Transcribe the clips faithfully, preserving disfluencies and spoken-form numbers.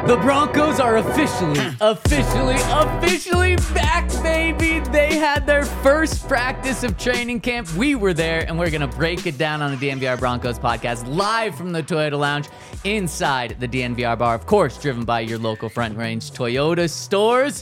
The Broncos are officially, officially, officially back, baby. They had their first practice of training camp. We were there, and we're going to break it down on the D N V R Broncos podcast live from the Toyota Lounge inside the D N V R bar. Of course, driven by your local Front Range Toyota stores.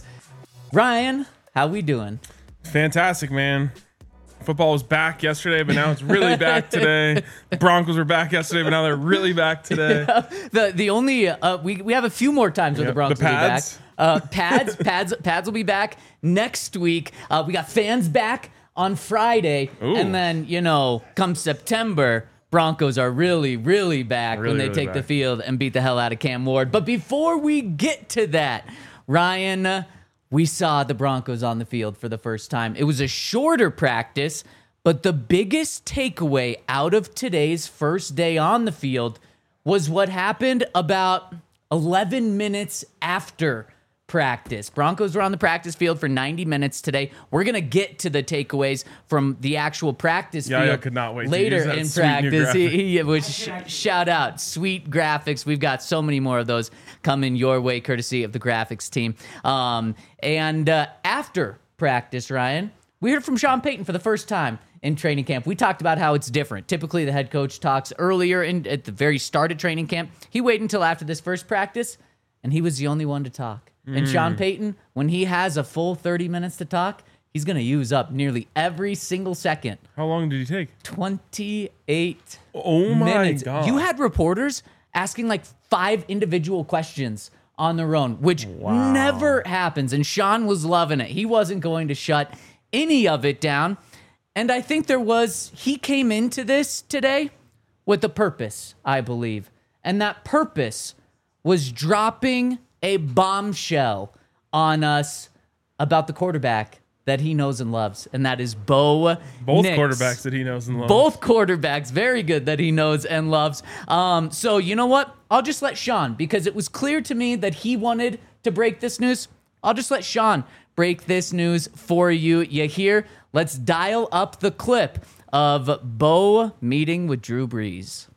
Ryan, how we doing? Fantastic, man. Football was back yesterday, but now it's really back today. The Broncos were back yesterday, but now they're really back today. Yeah, the the only uh, we we have a few more times where Yep, the Broncos the will be back. pads. Uh, pads, pads, pads will be back next week. Uh, we got fans back on Friday, Ooh. and then you know, come September, Broncos are really, really back Really, when they really take the back. field and beat the hell out of Cam Ward. But before we get to that, Ryan, uh, we saw the Broncos on the field for the first time. It was a shorter practice. But the biggest takeaway out of today's first day on the field was what happened about eleven minutes after practice. Broncos were on the practice field for ninety minutes today. We're going to get to the takeaways from the actual practice Yeah, field I could not wait to later use that in sweet new practice. He, graphic. he was sh- shout out, sweet graphics. We've got so many more of those coming your way, courtesy of the graphics team. Um, and uh, after practice, Ryan, we heard from Sean Payton for the first time in training camp. We talked about how it's different. Typically, the head coach talks earlier in, at the very start of training camp. He waited until after this first practice, and he was the only one to talk. Mm. And Sean Payton, when he has a full thirty minutes to talk, he's going to use up nearly every single second. How long did he take? twenty-eight Oh my minutes. God. You had reporters asking like five individual questions on their own, which Wow. never happens. And Sean was loving it. He wasn't going to shut any of it down. And I think there was, he came into this today with a purpose, I believe. And that purpose was dropping a bombshell on us about the quarterback that he knows and loves. And that is Bo Both Nix. quarterbacks that he knows and loves. Both quarterbacks, very good that he knows and loves. Um, so you know what? I'll just let Sean, because it was clear to me that he wanted to break this news. I'll just let Sean break this news for you. You hear? Let's dial up the clip of Bo meeting with Drew Brees.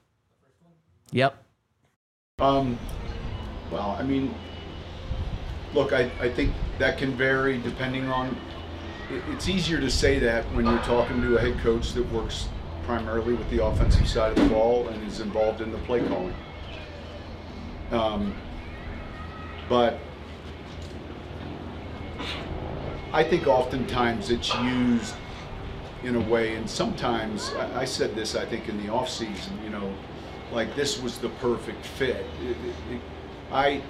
Yep. Um, well, I mean, look, I, I think that can vary depending on, it, it's easier to say that when you're talking to a head coach that works primarily with the offensive side of the ball and is involved in the play calling. Um, but I think oftentimes it's used in a way, and sometimes, I, I said this, I think, in the off season, you know, like this was the perfect fit. It, it, it, I,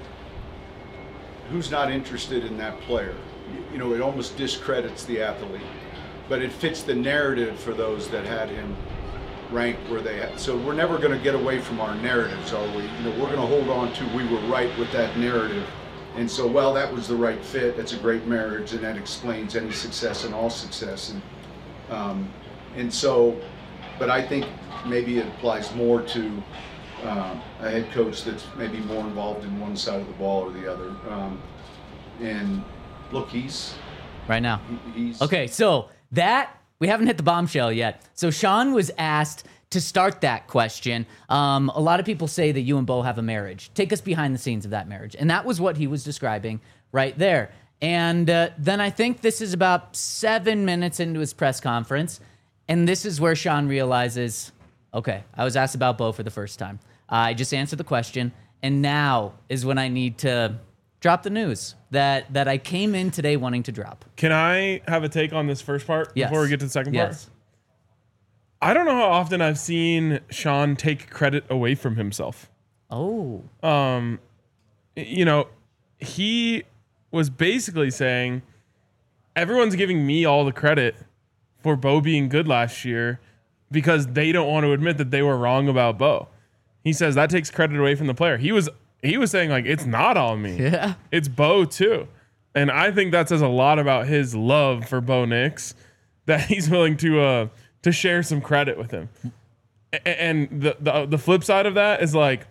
who's not interested in that player? You, you know, it almost discredits the athlete, but it fits the narrative for those that had him ranked where they had. So we're never going to get away from our narratives, are we? You know, we're going to hold on to, we were right with that narrative. And so, well, that was the right fit. That's a great marriage, and that explains any success and all success. And um, and so, but I think maybe it applies more to uh, a head coach that's maybe more involved in one side of the ball or the other. Um, and look, he's Right now. he, he's Okay, so that, we haven't hit the bombshell yet. So Sean was asked to start that question. Um, a lot of people say that you and Bo have a marriage. Take us behind the scenes of that marriage. And that was what he was describing right there. And uh, then I think this is about seven minutes into his press conference. And this is where Sean realizes, okay, I was asked about Bo for the first time. I just answered the question. And now is when I need to drop the news that, that I came in today wanting to drop. Can I have a take on this first part Yes. before we get to the second part? Yes. I don't know how often I've seen Sean take credit away from himself. Oh. Um, you know, he was basically saying, everyone's giving me all the credit for Bo being good last year because they don't want to admit that they were wrong about Bo. He says that takes credit away from the player. He was he was saying, like, it's not on me. Yeah. It's Bo too. And I think that says a lot about his love for Bo Nix, that he's willing to uh to share some credit with him. A- And the, the the flip side of that is, like,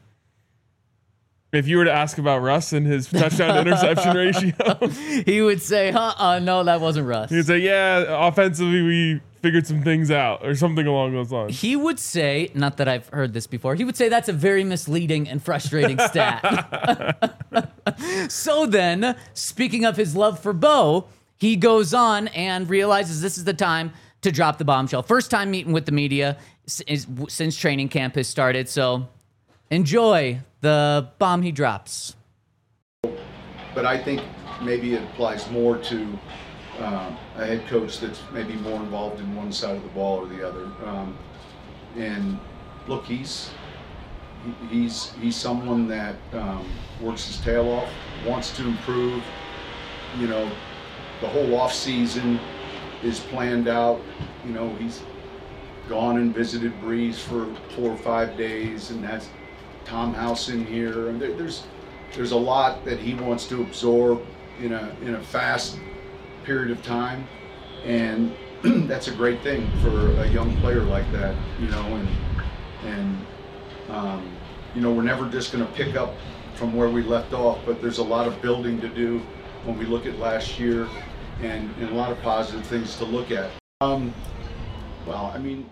if you were to ask about Russ and his touchdown to interception ratio, He would say, uh-uh, no, that wasn't Russ. he'd say, yeah, offensively we figured some things out or something along those lines. He would say, not that I've heard this before, he would say that's a very misleading and frustrating stat. So then, speaking of his love for Bo, he goes on and realizes this is the time to drop the bombshell. First time meeting with the media since training camp has started. So enjoy the bomb he drops. But I think maybe it applies more to uh, a head coach that's maybe more involved in one side of the ball or the other. Um, and look, he's he's he's someone that um, works his tail off, wants to improve. You know, the whole off season is planned out. You know, he's gone and visited Brees for four or five days, and has Tom House in here, and there, there's there's a lot that he wants to absorb in a in a fast period of time, and that's a great thing for a young player like that, you know, and and um, you know, we're never just going to pick up from where we left off, but there's a lot of building to do when we look at last year, and, and a lot of positive things to look at. Um, well, I mean.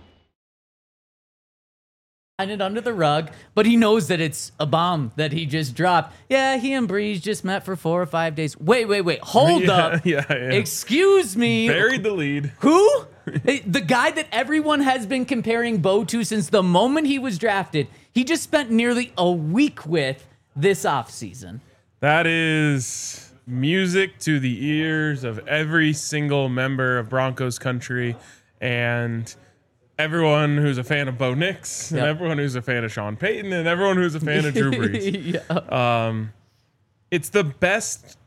It under the rug, but he knows that it's a bomb that he just dropped. Yeah, he and Brees just met for four or five days. Wait, wait, wait. Hold yeah, up. Yeah, yeah. Excuse me. Buried the lead. Who? The guy that everyone has been comparing Bo to since the moment he was drafted. He just spent nearly a week with this offseason. That is music to the ears of every single member of Broncos country, and everyone who's a fan of Bo Nix, and yep. everyone who's a fan of Sean Payton, and everyone who's a fan of Drew Brees. yeah. Um, it's the best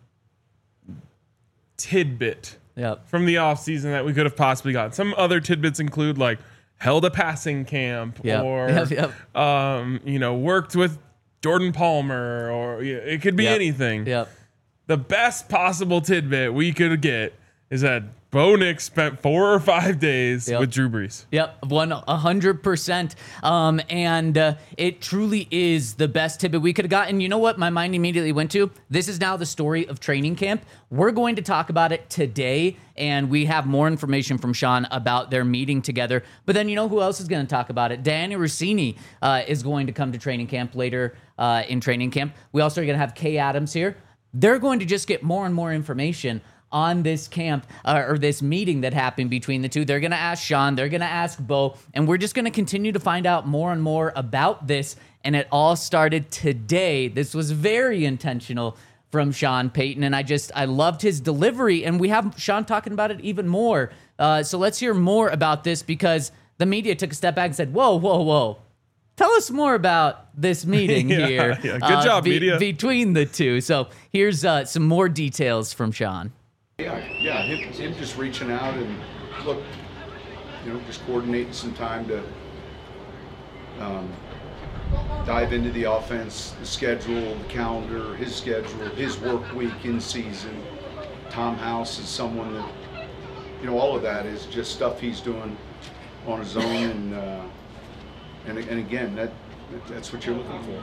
tidbit yep. from the offseason that we could have possibly gotten. Some other tidbits include, like, held a passing camp, yep. or, yep, yep. Um, you know, worked with Jordan Palmer, or you know, it could be yep. anything. Yep. The best possible tidbit we could get is that Bo Nix spent four or five days yep. with Drew Brees. Yep, one a hundred percent. Um, and uh, it truly is the best tidbit we could have gotten. You know what? My mind immediately went to. This is now the story of training camp. We're going to talk about it today, and we have more information from Sean about their meeting together. But then you know who else is going to talk about it? Dianna Russini uh, is going to come to training camp later uh, in training camp. We also are going to have Kay Adams here. They're going to just get more and more information on this camp uh, or this meeting that happened between the two. They're going to ask Sean, they're going to ask Bo, and we're just going to continue to find out more and more about this. And it all started today. This was very intentional from Sean Payton, and I just, I loved his delivery, and we have Sean talking about it even more. Uh, so let's hear more about this, because the media took a step back and said, whoa, whoa, whoa. Tell us more about this meeting yeah, here. Yeah. Good uh, job, be, media. Between the two. So here's uh, some more details from Sean. Yeah, yeah, him, him just reaching out and look, you know, just coordinating some time to um, dive into the offense, the schedule, the calendar, his schedule, his work week in season. Tom House is someone that, you know, all of that is just stuff he's doing on his own, and uh, and and again, that that's what you're looking for.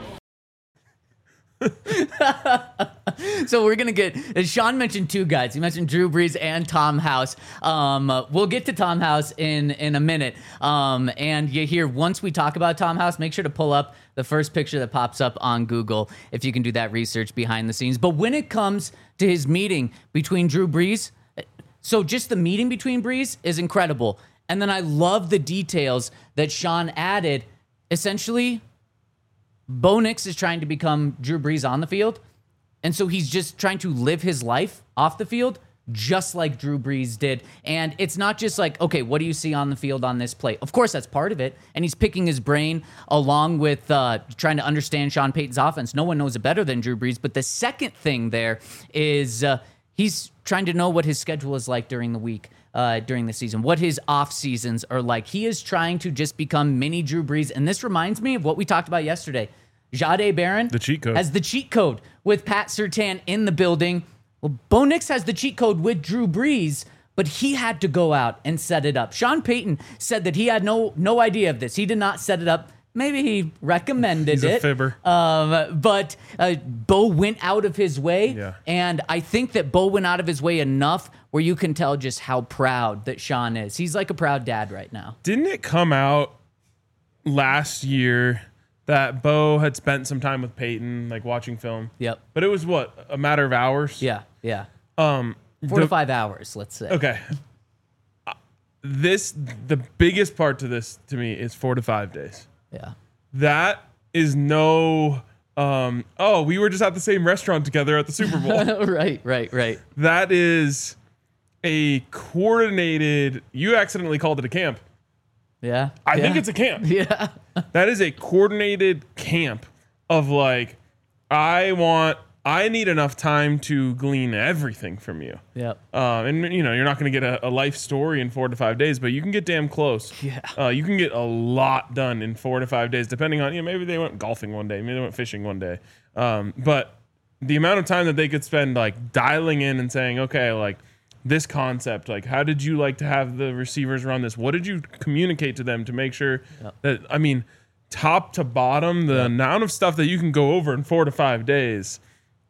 So we're going to get, as Sean mentioned two guys. He mentioned Drew Brees and Tom House. Um, uh, we'll get to Tom House in, in a minute. Um, and you hear, once we talk about Tom House, make sure to pull up the first picture that pops up on Google if you can do that research behind the scenes. But when it comes to his meeting between Drew Brees, so just the meeting between Brees is incredible. And then I love the details that Sean added. Essentially, Bo Nix is trying to become Drew Brees on the field, and so he's just trying to live his life off the field just like Drew Brees did. And it's not just like, okay, what do you see on the field on this play? Of course, that's part of it, and he's picking his brain along with uh, trying to understand Sean Payton's offense. No one knows it better than Drew Brees, but the second thing there is uh, he's trying to know what his schedule is like during the week. Uh, during the season, what his off seasons are like. He is trying to just become mini Drew Brees, and this reminds me of what we talked about yesterday. Jahdae Barron the cheat code. has the cheat code with Pat Surtain in the building. Well, Bo Nix has the cheat code with Drew Brees, but he had to go out and set it up. Sean Payton said that he had no no idea of this. He did not set it up. Maybe he recommended He's it. a fibber. Um, but uh, Bo went out of his way, yeah. and I think that Bo went out of his way enough where you can tell just how proud that Sean is. He's like a proud dad right now. Didn't it come out last year that Bo had spent some time with Peyton, like watching film. Yep. But it was what, a matter of hours? Yeah. Yeah. Um, Four the- to five hours, let's say. Okay. Uh, This, the biggest part to this to me is four to five days. Yeah. That is no, um, oh, we were just at the same restaurant together at the Super Bowl. right. Right. Right. That is a coordinated, you accidentally called it a camp. Yeah. I yeah. think it's a camp. Yeah. That is a coordinated camp of like, I want, I need enough time to glean everything from you. Yep. Um, and you know, you're not going to get a, a life story in four to five days, but you can get damn close. Yeah. Uh, you can get a lot done in four to five days, depending on, you know, maybe they went golfing one day, maybe they went fishing one day. Um, but the amount of time that they could spend like dialing in and saying, okay, like this concept, like how did you like to have the receivers run this? What did you communicate to them to make sure Yep. that, I mean, top to bottom, the Yep. amount of stuff that you can go over in four to five days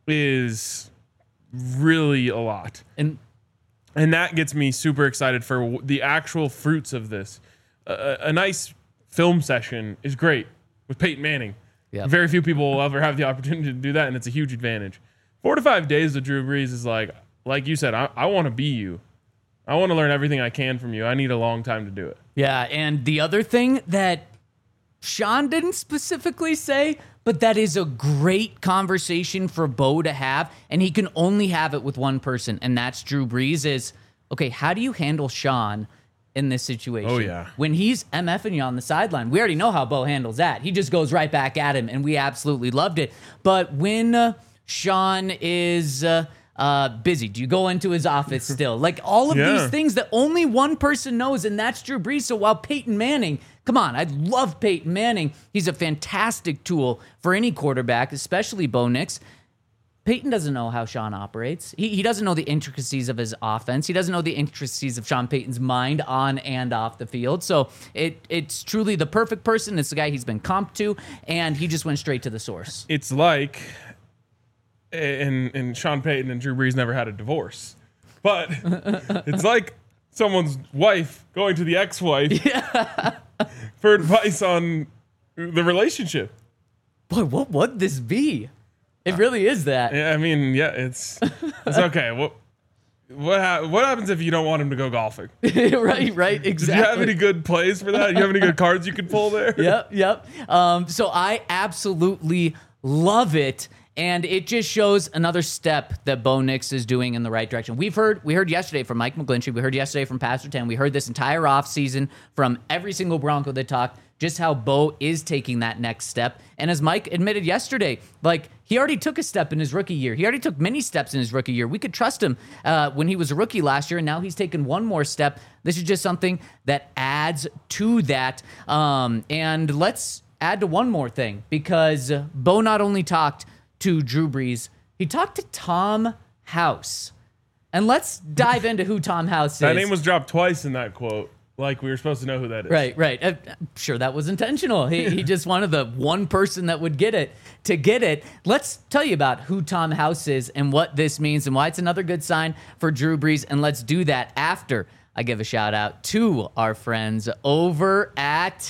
is really a lot. And And that gets me super excited for w- the actual fruits of this. Uh, a nice film session is great with Peyton Manning. Yep. Very few people will ever have the opportunity to do that, and it's a huge advantage. Four to five days with Drew Brees is like, like you said, I, I want to be you. I want to learn everything I can from you. I need a long time to do it. yeah, and the other thing that Sean didn't specifically say, but that is a great conversation for Bo to have, and he can only have it with one person, and that's Drew Brees. Is okay, how do you handle Sean in this situation? Oh, yeah. When he's MFing you on the sideline, we already know how Bo handles that. He just goes right back at him, and we absolutely loved it. But when uh, Sean is uh, uh, busy, do you go into his office still? Like all of Yeah. these things that only one person knows, and that's Drew Brees. So while Peyton Manning, come on, I love Peyton Manning. He's a fantastic tool for any quarterback, especially Bo Nix. Peyton doesn't know how Sean operates. He, he doesn't know the intricacies of his offense. He doesn't know the intricacies of Sean Payton's mind on and off the field. So it it's truly the perfect person. It's the guy he's been comped to, and he just went straight to the source. It's like, and, and Sean Payton and Drew Brees never had a divorce, but it's like someone's wife going to the ex-wife for advice on the relationship. Boy, what would this be? It really is that. Yeah, I mean, yeah, it's it's okay. What what ha- what happens if you don't want him to go golfing? right, right, Do exactly. you have any good plays for that? Do you have any good cards you could pull there? Yep, yep. Um, so I absolutely love it. And it just shows another step that Bo Nix is doing in the right direction. We've heard, we heard yesterday from Mike McGlinchey. We heard yesterday from Pastor Ten. We heard this entire offseason from every single Bronco that talked, just how Bo is taking that next step. And as Mike admitted yesterday, like he already took a step in his rookie year. He already took many steps in his rookie year. We could trust him uh, when he was a rookie last year, and now he's taken one more step. This is just something that adds to that. Um, and let's add to one more thing, because Bo not only talked to Drew Brees, he talked to Tom House. And let's dive into who Tom House is. That name was dropped twice in that quote. Like we were supposed to know who that is. Right, right. Uh, I'm sure that was intentional. He, he just wanted the one person that would get it to get it. Let's tell you about who Tom House is and what this means and why it's another good sign for Drew Brees. And let's do that after I give a shout out to our friends over at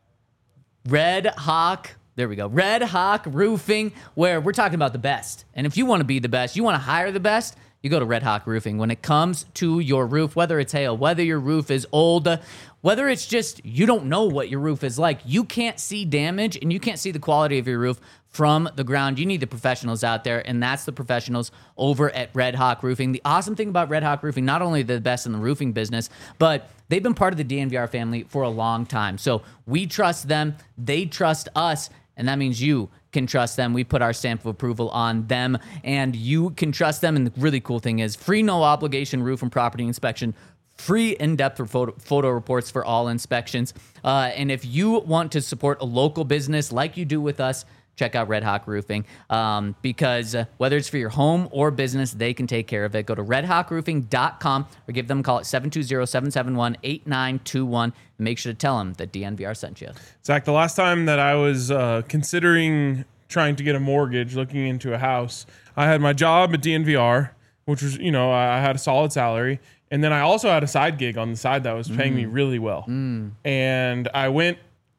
Red Hawk. There we go. Red Hawk Roofing, where we're talking about the best. And if you want to be the best, you want to hire the best, you go to Red Hawk Roofing. When it comes to your roof, whether it's hail, whether your roof is old, whether it's just you don't know what your roof is like, you can't see damage and you can't see the quality of your roof from the ground. You need the professionals out there, and that's the professionals over at Red Hawk Roofing. The awesome thing about Red Hawk Roofing, not only the best in the roofing business, but they've been part of the D N V R family for a long time. So we trust them, they trust us, and that means you can trust them. We put our stamp of approval on them, and you can trust them. And the really cool thing is free, no obligation roof and property inspection, free in-depth photo, photo reports for all inspections. Uh, and if you want to support a local business like you do with us, check out Red Hawk Roofing, um, because uh, whether it's for your home or business, they can take care of it. Go to red hawk roofing dot com or give them a call at seven two zero, seven seven one, eight nine two one. And make sure to tell them that D N V R sent you. Zach, the last time that I was uh, considering trying to get a mortgage, looking into a house, I had my job at D N V R, which was, you know, I had a solid salary. And then I also had a side gig on the side that was paying mm. me really well. Mm. And I went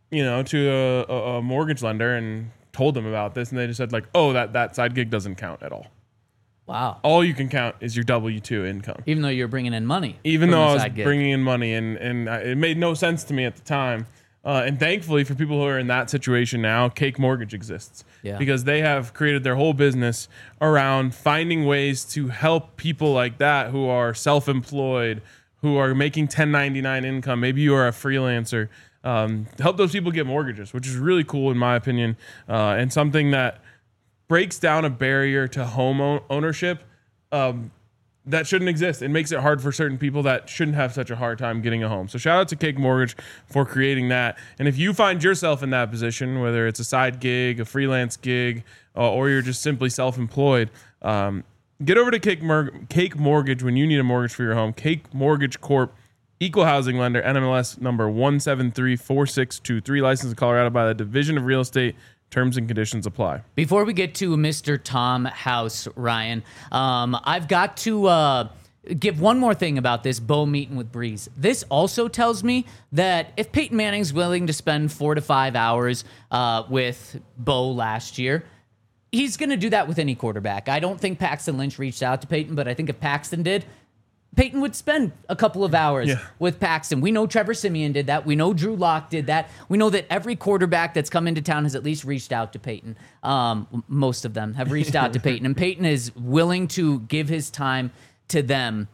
you know, to a, a, a mortgage lender and told them about this, and they just said like, oh, that, that side gig doesn't count at all. Wow. All you can count is your W two income. Even though you're bringing in money. Even from though the I was side gig. bringing in money, and, and I, it made no sense to me at the time. Uh, and thankfully for people who are in that situation now, Cake Mortgage exists. Yeah. Because they have created their whole business around finding ways to help people like that who are self-employed, who are making ten ninety-nine income. Maybe you are a freelancer. Um, help those people get mortgages, which is really cool in my opinion, uh, and something that breaks down a barrier to home own- ownership um, that shouldn't exist. It makes it hard for certain people that shouldn't have such a hard time getting a home. So shout out to Cake Mortgage for creating that. And if you find yourself in that position, whether it's a side gig, a freelance gig, uh, or you're just simply self-employed, um, get over to Cake, Mor- Cake Mortgage when you need a mortgage for your home. Cake Mortgage Corp, equal housing lender, N M L S number one seven three four six two three, licensed in Colorado by the Division of Real Estate. Terms and conditions apply. Before we get to Mister Tom House, Ryan, um, I've got to uh, give one more thing about this Bo meeting with Brees. This also tells me that if Peyton Manning's willing to spend four to five hours uh, with Bo last year, he's going to do that with any quarterback. I don't think Paxton Lynch reached out to Peyton, but I think if Paxton did, Peyton would spend a couple of hours yeah. with Paxton. We know Trevor Siemian did that. We know Drew Lock did that. We know that every quarterback that's come into town has at least reached out to Peyton. Um, most of them have reached out to Peyton, and Peyton is willing to give his time to them.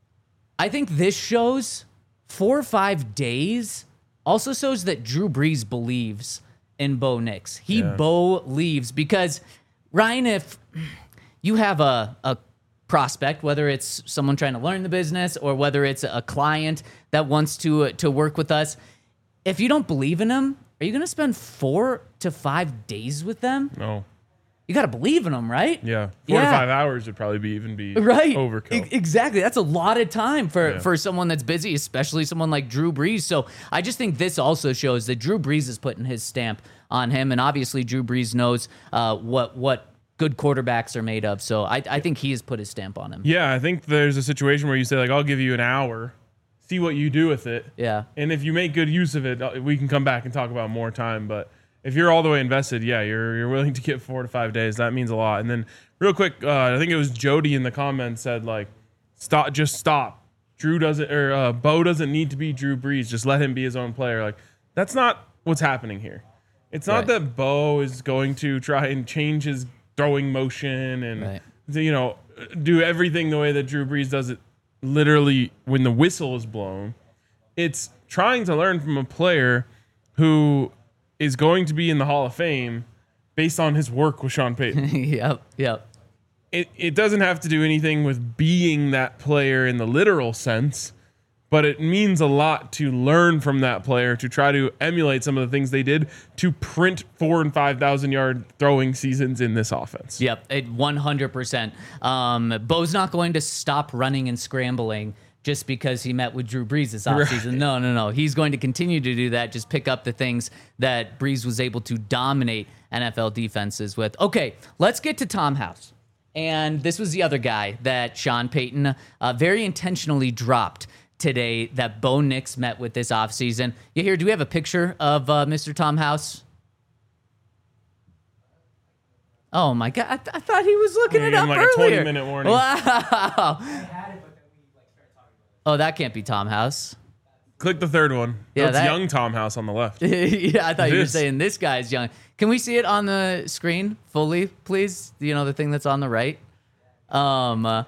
I think this shows four or five days also shows that Drew Brees believes in Bo Nix. He Yeah. Bo leaves because, Ryan, if you have a, a prospect, whether it's someone trying to learn the business or whether it's a client that wants to to work with us, if you don't believe in them, are you going to spend four to five days with them? No. You got to believe in them, right? Yeah. Four Yeah. to five hours would probably be even be Right. overkill. E- exactly. That's a lot of time for, Yeah. for someone that's busy, especially someone like Drew Brees. So I just think this also shows that Drew Brees is putting his stamp on him. And obviously Drew Brees knows uh, what what good quarterbacks are made of. So I, I think he has put his stamp on him. Yeah, I think there's a situation where you say, like, I'll give you an hour, see what you do with it. Yeah. And if you make good use of it, uh, we can come back and talk about more time. But if you're all the way invested, yeah, you're you're willing to get four to five days. That means a lot. And then real quick, uh, I think it was Jody in the comments said, like, stop, just stop. Drew doesn't, or uh, Bo doesn't need to be Drew Brees. Just let him be his own player. Like, that's not what's happening here. It's not Right. that Bo is going to try and change his throwing motion and, Right. you know, do everything the way that Drew Brees does it literally when the whistle is blown. It's trying to learn from a player who is going to be in the Hall of Fame based on his work with Sean Payton. yep. Yep. it, it doesn't have to do anything with being that player in the literal sense, but it means a lot to learn from that player, to try to emulate some of the things they did to print four and five thousand yard throwing seasons in this offense. Yep, it one hundred percent. Um, Bo's not going to stop running and scrambling just because he met with Drew Brees this offseason. Right. No, no, no. He's going to continue to do that, just pick up the things that Brees was able to dominate N F L defenses with. Okay, let's get to Tom House. And this was the other guy that Sean Payton uh, very intentionally dropped today that Bo Nix met with this offseason. You here, do we have a picture of uh, Mister Tom House? Oh my God, I, th- I thought he was looking Yeah, it give up him like a earlier. twenty minute warning. Wow. Oh, that can't be Tom House. Click the third one. Yeah, That's that- young Tom House on the left. Yeah, I thought It you were is. saying this guy's young. Can we see it on the screen fully, please? You know, the thing that's on the right? Um, uh,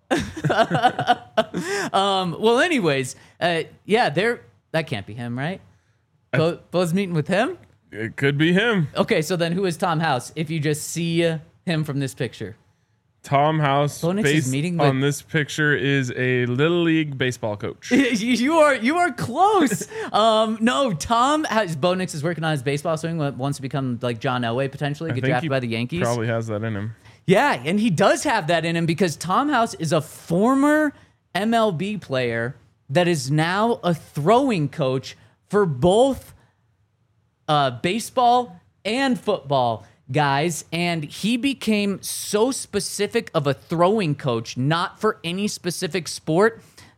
um well, anyways, uh, yeah, there, that can't be him, right? Bo, Bo's meeting with him? It could be him. Okay, so then who is Tom House if you just see uh, him from this picture? Tom House, Bo Nix is based meeting with- on this picture, is a little league baseball coach. you are you are close. um, no, Tom has Bo Nix is working on his baseball swing. Wants to become like John Elway potentially, I get think drafted he by the Yankees. Probably has that in him. Yeah, and he does have that in him because Tom House is a former M L B player that is now a throwing coach for both uh, baseball and football guys. And he became so specific of a throwing coach, not for any specific sport,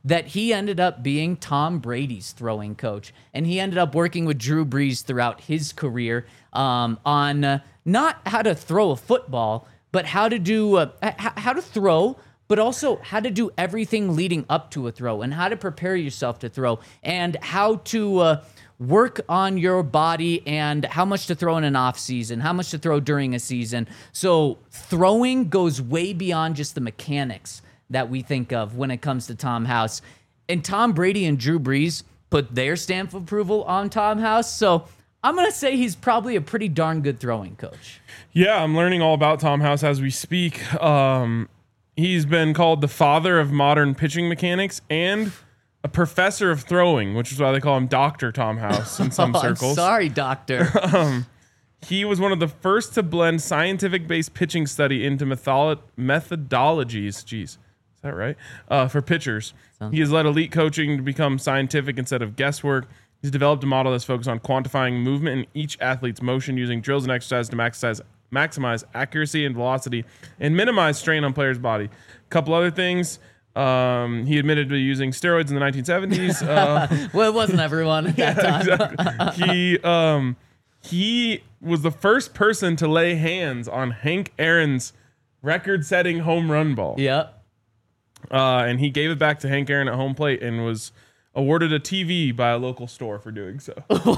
that he ended up being Tom Brady's throwing coach. And he ended up working with Drew Brees throughout his career um, on uh, not how to throw a football, but how to do uh, h- how to throw, but also how to do everything leading up to a throw and how to prepare yourself to throw and how to uh, work on your body and how much to throw in an off season, how much to throw during a season. So throwing goes way beyond just the mechanics that we think of when it comes to Tom House. And Tom Brady and Drew Brees put their stamp of approval on Tom House. So I'm going to say he's probably a pretty darn good throwing coach. Yeah, I'm learning all about Tom House as we speak. Um, he's been called the father of modern pitching mechanics and a professor of throwing, which is why they call him Doctor Tom House in some oh, circles. I'm sorry, doctor. um, he was one of the first to blend scientific-based pitching study into method- methodologies. Jeez, is that right? Uh, for pitchers. Sounds he has led elite coaching to become scientific instead of guesswork. He's developed a model that's focused on quantifying movement in each athlete's motion using drills and exercise to maximize, maximize accuracy and velocity and minimize strain on players' body. A couple other things. Um, he admitted to using steroids in the nineteen seventies. Uh, well, it wasn't everyone at that yeah, time. Exactly. he um, he was the first person to lay hands on Hank Aaron's record-setting home run ball. Yep. Uh, and he gave it back to Hank Aaron at home plate and was awarded a T V by a local store for doing so.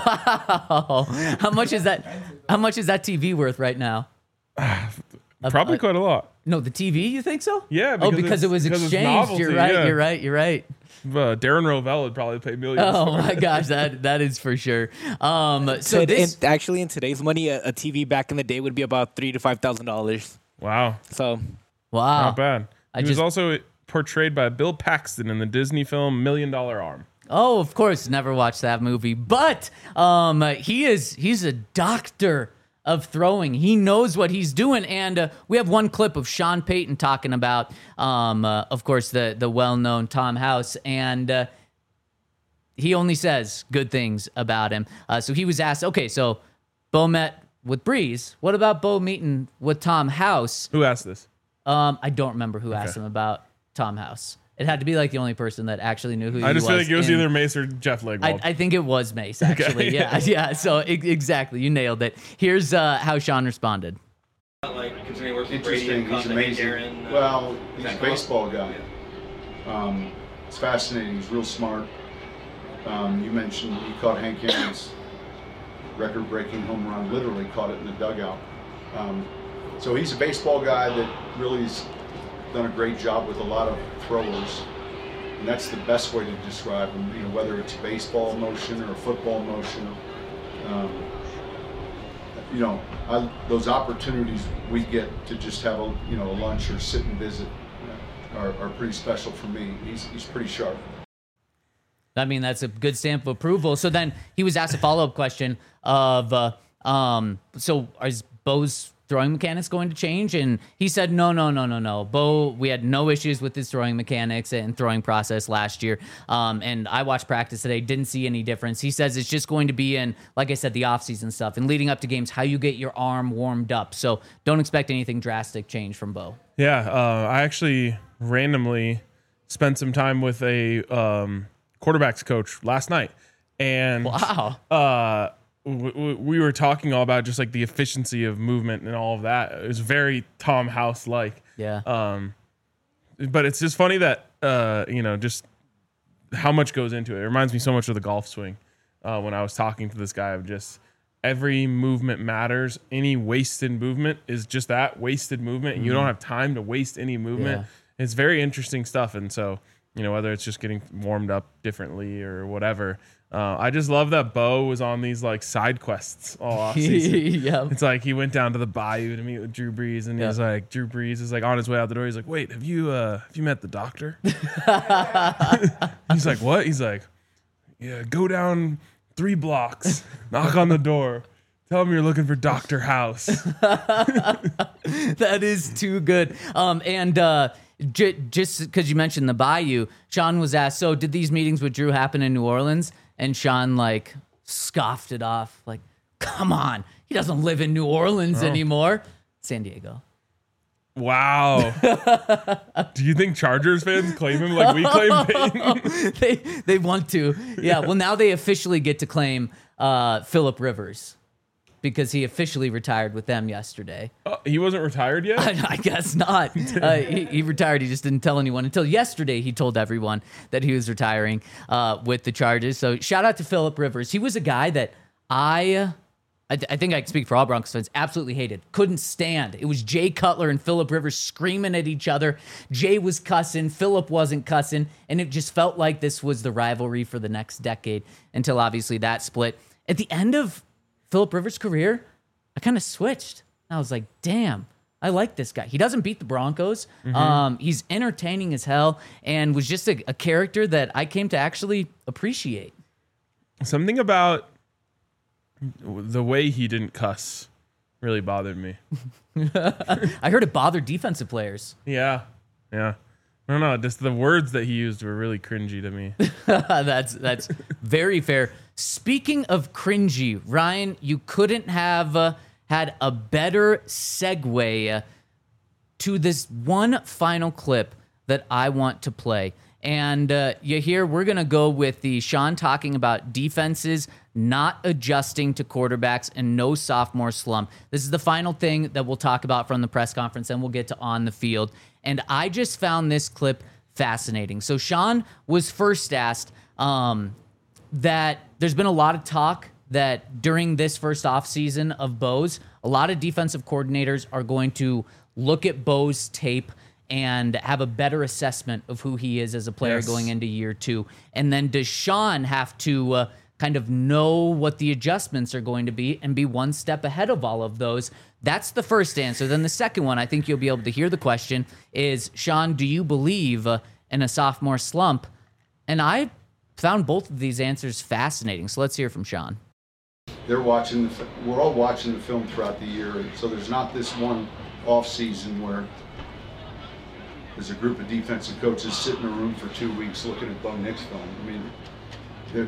Wow. How much is that? How much is that T V worth right now? Probably uh, quite a lot. No, the T V, you think so? Yeah. Oh, because it was because it's exchanged. novelty, You're right. yeah. You're right. You're right. Uh, Darren Rovell would probably pay millions. Oh for my it. gosh, that that is for sure. Um, so So this in, actually, in today's money, a, a T V back in the day would be about three to five thousand dollars. Wow. So, wow, Not bad. I He was just- also portrayed by Bill Paxton in the Disney film Million Dollar Arm. Oh, of course, never watched that movie. But um, he is he's a doctor of throwing. He knows what he's doing. And uh, we have one clip of Sean Payton talking about, um, uh, of course, the the well-known Tom House. And uh, he only says good things about him. Uh, so he was asked, okay, so Bo met with Breeze. What about Bo meeting with Tom House? Who asked this? Um, I don't remember who asked Okay. him about Tom House. It had to be like the only person that actually knew who he I was. just feel like it was in- either Mace or Jeff Legwold. I, I think it was Mace, actually. Okay. Yeah, yeah. So e- exactly, you nailed it. Here's uh, how Sean responded. Like continuing working with Brady Interesting. and He's Conte, amazing. Aaron, uh, Well, he's a Zach Wilson. baseball guy. Um, it's fascinating. He's real smart. Um, you mentioned he caught Hank Aaron's record-breaking home run. Literally caught it in the dugout. Um, so he's a baseball guy that really has done a great job with a lot of throwers, and that's the best way to describe him. You know, whether it's baseball motion or football motion. Um, you know, I, those opportunities we get to just have a you know a lunch or sit and visit are, are pretty special for me. He's he's pretty sharp. I mean, that's a good stamp of approval. So then he was asked a follow-up question of, uh, um, so is Bo's throwing mechanics going to change? And he said, no, no, no, no, no. Bo, we had no issues with his throwing mechanics and throwing process last year. Um, and I watched practice today, didn't see any difference. He says it's just going to be in, like I said, the offseason stuff and leading up to games, how you get your arm warmed up. So don't expect anything drastic change from Bo. Yeah, uh, I actually randomly spent some time with a um, quarterbacks coach last night, and Wow. uh, w- w- we were talking all about just like the efficiency of movement and all of that. It was very Tom House like. Yeah. Um, but it's just funny that uh, you know just how much goes into it. It reminds me so much of the golf swing. Uh, when I was talking to this guy, of just every movement matters. Any wasted movement is just that wasted movement, and you don't have time to waste any movement. Yeah. It's very interesting stuff, and so you know whether it's just getting warmed up differently or whatever. Uh, I just love that Bo was on these like side quests all offseason. Yeah. It's like he went down to the bayou to meet with Drew Brees, and Yeah. he's like, Drew Brees is like on his way out the door. He's like, wait, have you uh, have you met the doctor? He's like, what? He's like, yeah, go down three blocks, knock on the door, tell him you're looking for Doctor House. That is too good. Um, and uh, j- just because you mentioned the Bayou, Sean was asked, so did these meetings with Drew happen in New Orleans? And Sean, like, scoffed it off. Like, come on. He doesn't live in New Orleans Oh. anymore. San Diego. Wow. Do you think Chargers fans claim him like we claim Peyton? they they want to. Yeah. Well, now they officially get to claim uh, Phillip Rivers because he officially retired with them yesterday. Uh, he wasn't retired yet? I, I guess not. Uh, he, he retired. He just didn't tell anyone until yesterday. He told everyone that he was retiring uh, with the Chargers. So shout out to Phillip Rivers. He was a guy that I. I, th- I think I can speak for all Broncos fans. Absolutely hated. Couldn't stand. It was Jay Cutler and Phillip Rivers screaming at each other. Jay was cussing. Phillip wasn't cussing. And it just felt like this was the rivalry for the next decade until obviously that split. At the end of Phillip Rivers' career, I kind of switched. I was like, damn, I like this guy. He doesn't beat the Broncos. Mm-hmm. Um, he's entertaining as hell and was just a, a character that I came to actually appreciate. Something about the way he didn't cuss really bothered me. I heard it bothered defensive players. Yeah. Yeah. I don't know. Just the words that he used were really cringy to me. that's that's very fair. Speaking of cringy, Ryan, you couldn't have uh, had a better segue uh, to this one final clip that I want to play. And uh, you hear we're going to go with the Sean talking about defenses not adjusting to quarterbacks and no sophomore slump. This is the final thing that we'll talk about from the press conference, and we'll get to on the field. And I just found this clip fascinating. So Sean was first asked um, that there's been a lot of talk that during this first offseason of Bo's, a lot of defensive coordinators are going to look at Bo's tape and have a better assessment of who he is as a player Yes. going into year two. And then does Sean have to uh, kind of know what the adjustments are going to be and be one step ahead of all of those? That's the first answer. Then the second one, I think you'll be able to hear the question, is, Sean, do you believe uh, in a sophomore slump? And I found both of these answers fascinating. So let's hear from Sean. They're watching, the, fi- we're all watching the film throughout the year, and so there's not this one off season where there's a group of defensive coaches sit in a room for two weeks looking at Bo Nix film. I mean, the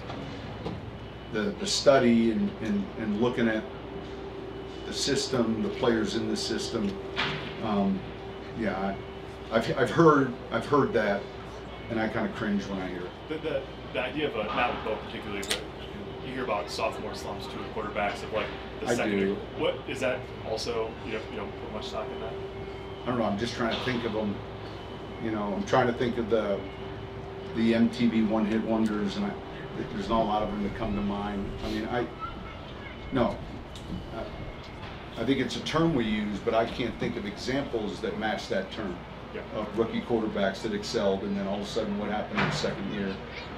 the, the study and, and, and looking at the system, the players in the system. Um, yeah, I, I've I've heard I've heard that, and I kind of cringe when I hear it. The, the, the idea of a, not with Bo particularly, but you hear about sophomore slumps to the quarterbacks of like the I second do. year. What is that also? You don't you don't put much stock in that. I don't know. I'm just trying to think of them. You know, I'm trying to think of the the M T V one-hit wonders, and I, there's not a lot of them that come to mind. I mean, I no. I, I think it's a term we use, but I can't think of examples that match that term. Yeah. Of rookie quarterbacks that excelled, and then all of a sudden, what happened in the second year?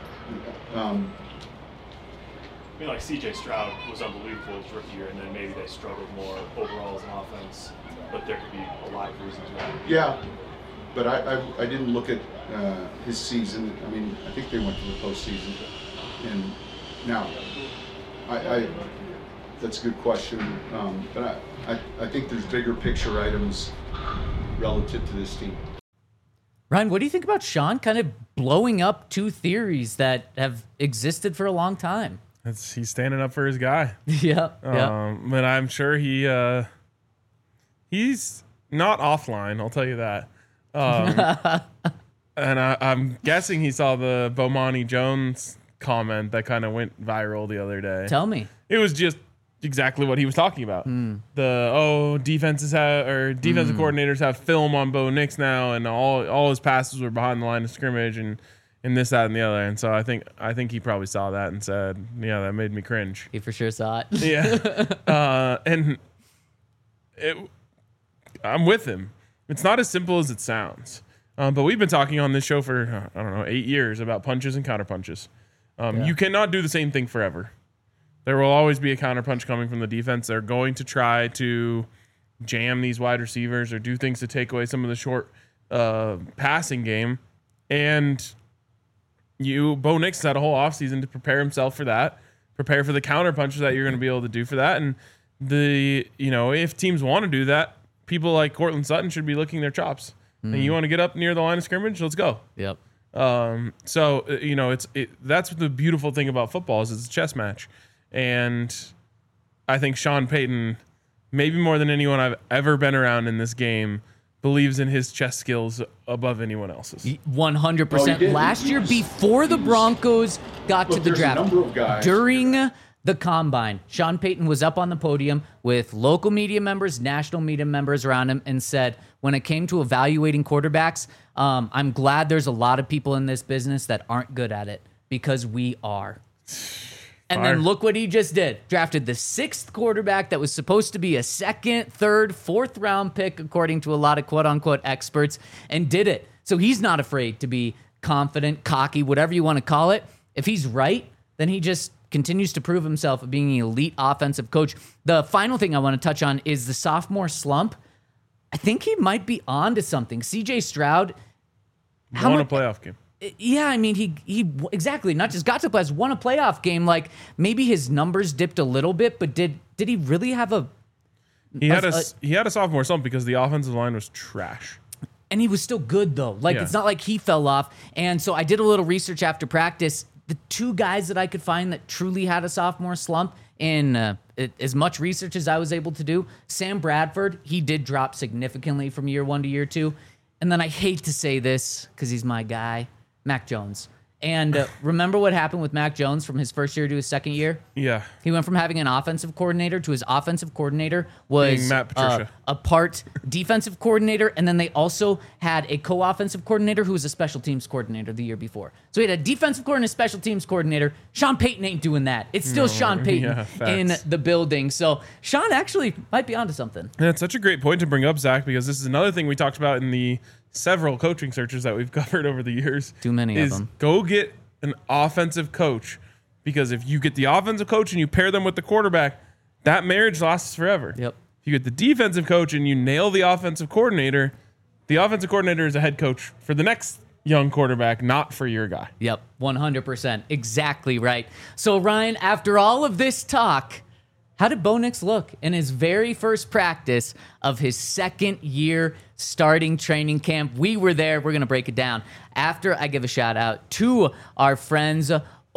Um, I mean, like C J Stroud was unbelievable his rookie year, and then maybe they struggled more overall as an offense. But there could be a lot of reasons why. Yeah, but I, I, I didn't look at uh, his season. I mean, I think they went to the postseason. And now, I, I that's a good question. Um, but I, I, I think there's bigger picture items relative to this team. Ryan, what do you think about Sean kind of blowing up two theories that have existed for a long time? That's, he's standing up for his guy. yeah, yeah. Um, but I'm sure he uh, he's not offline. I'll tell you that. Um, and I, I'm guessing he saw the Bomani Jones comment that kind of went viral the other day. Tell me. It was just exactly what he was talking about. Mm. The oh defenses have or defensive Mm. coordinators have film on Bo Nix now, and all all his passes were behind the line of scrimmage, and and this, that, and the other. And so I think I think he probably saw that and said, yeah, that made me cringe. He for sure saw it. Yeah. uh, and it, I'm with him. It's not as simple as it sounds. Um, but we've been talking on this show for, I don't know, eight years about punches and counterpunches. Um, Yeah. You cannot do the same thing forever. There will always be a counterpunch coming from the defense. They're going to try to jam these wide receivers or do things to take away some of the short uh, passing game. And you, Bo Nix had a whole offseason to prepare himself for that, prepare for the counterpunches that you're going to be able to do for that. And the, you know, if teams want to do that, people like Cortland Sutton should be licking their chops. Mm. And you want to get up near the line of scrimmage? Let's go. Yep. Um, so, uh, you know, it's it, that's the beautiful thing about football is it's a chess match. And I think Sean Payton, maybe more than anyone I've ever been around in this game, believes in his chess skills above anyone else's. one hundred Oh, he percent. did. Last He year, was- before the he was- Broncos got Look, to the there's a draft, number of guys. during the combine, Sean Payton was up on the podium with local media members, national media members around him, and said, when it came to evaluating quarterbacks, um, I'm glad there's a lot of people in this business that aren't good at it, because we are. And Fire. then look what he just did. Drafted the sixth quarterback that was supposed to be a second, third, fourth round pick, according to a lot of quote unquote experts, and did it. So he's not afraid to be confident, cocky, whatever you want to call it. If he's right, then he just continues to prove himself of being an elite offensive coach. The final thing I want to touch on is the sophomore slump. I think he might be on to something. C J Stroud. How Won much, a playoff game. yeah, I mean, he he exactly not just got to playoffs, won a playoff game. Like maybe his numbers dipped a little bit, but did did he really have a? He had a, a- he had a sophomore slump because the offensive line was trash. And he was still good though. Like Yeah. it's not like he fell off. And so I did a little research after practice. The two guys that I could find that truly had a sophomore slump, in uh, it, as much research as I was able to do, Sam Bradford, he did drop significantly from year one to year two. And then I hate to say this because he's my guy, Mac Jones. And uh, remember what happened with Mac Jones from his first year to his second year? Yeah. He went from having an offensive coordinator to his offensive coordinator was Being Matt uh, Patricia. a part defensive coordinator, and then they also had a co-offensive coordinator who was a special teams coordinator the year before. So he had a defensive coordinator, special teams coordinator. Sean Payton ain't doing that. It's still No, Sean Payton yeah, facts. in the building. So Sean actually might be onto something. And it's such a great point to bring up, Zach, because this is another thing we talked about in the several coaching searches that we've covered over the years. Too many of is them. Go get an offensive coach, because if you get the offensive coach and you pair them with the quarterback, that marriage lasts forever. Yep. If you get the defensive coach and you nail the offensive coordinator, the offensive coordinator is a head coach for the next young quarterback, not for your guy. Yep, one hundred percent. Exactly right. So, Ryan, after all of this talk, how did Bo Nix look in his very first practice of his second year starting training camp? We were there. We're going to break it down after I give a shout out to our friends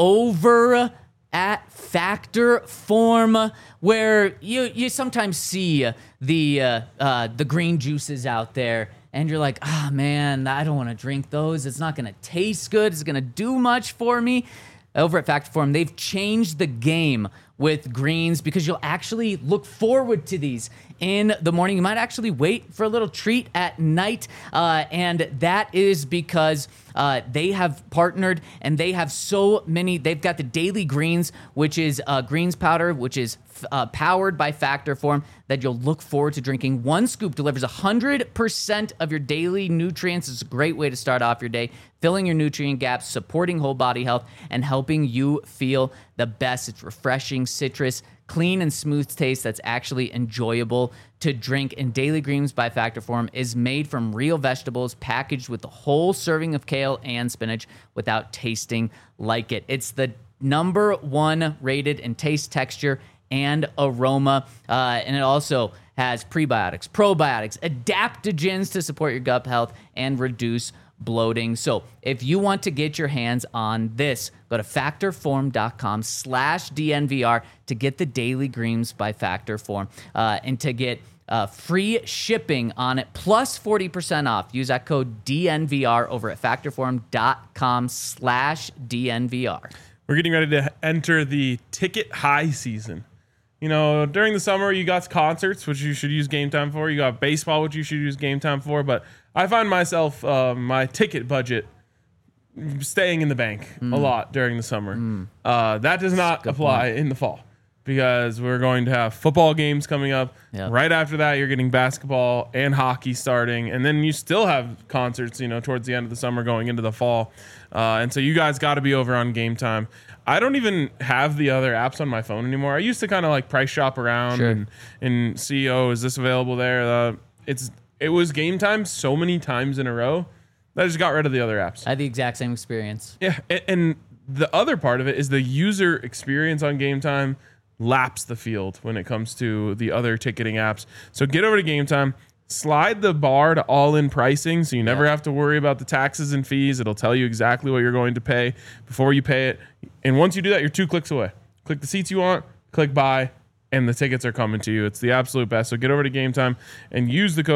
over at Factor Form, where you you sometimes see the uh, uh, the green juices out there, and you're like, ah, oh, man, I don't want to drink those. It's not going to taste good. It's going to do much for me. Over at Factor Form, they've changed the game with greens because you'll actually look forward to these in the morning. You might actually wait for a little treat at night, uh, and that is because uh, they have partnered and they have so many. They've got the Daily Greens, which is uh, greens powder, which is uh, powered by Factor Form, that you'll look forward to drinking. One scoop delivers one hundred percent of your daily nutrients. It's a great way to start off your day, filling your nutrient gaps, supporting whole body health, and helping you feel the best. It's refreshing, citrus, clean and smooth taste that's actually enjoyable to drink. And Daily Greens by Factor Form is made from real vegetables, packaged with a whole serving of kale and spinach without tasting like it. It's the number one rated in taste, texture, and aroma. Uh, and it also has prebiotics, probiotics, adaptogens to support your gut health and reduce bloating. So if you want to get your hands on this, go to factorform.com slash DNVR to get the Daily Greens by Factor Form, uh, and to get uh, free shipping on it, plus forty percent off. Use that code D N V R over at factorform.com slash DNVR. We're getting ready to enter the ticket high season. You know, during the summer, you got concerts, which you should use Game Time for. You got baseball, which you should use Game Time for. But I find myself, uh, my ticket budget staying in the bank mm. a lot during the summer. Mm. Uh, that does not apply point. in the fall, because we're going to have football games coming up. Yep. Right after that, you're getting basketball and hockey starting. And then you still have concerts, you know, towards the end of the summer going into the fall. Uh, and so you guys got to be over on Game Time. I don't even have the other apps on my phone anymore. I used to kind of like price shop around sure. and, and see, oh, is this available there? Uh, it's It was Game Time so many times in a row that I just got rid of the other apps. I had the exact same experience. Yeah, and, and the other part of it is the user experience on Game Time laps the field when it comes to the other ticketing apps. So get over to Game Time. Slide the bar to all-in pricing, so you never yeah. have to worry about the taxes and fees. It'll tell you exactly what you're going to pay before you pay it. And once you do that, you're two clicks away. Click the seats you want, click buy, and the tickets are coming to you. It's the absolute best. So get over to Game Time and use the code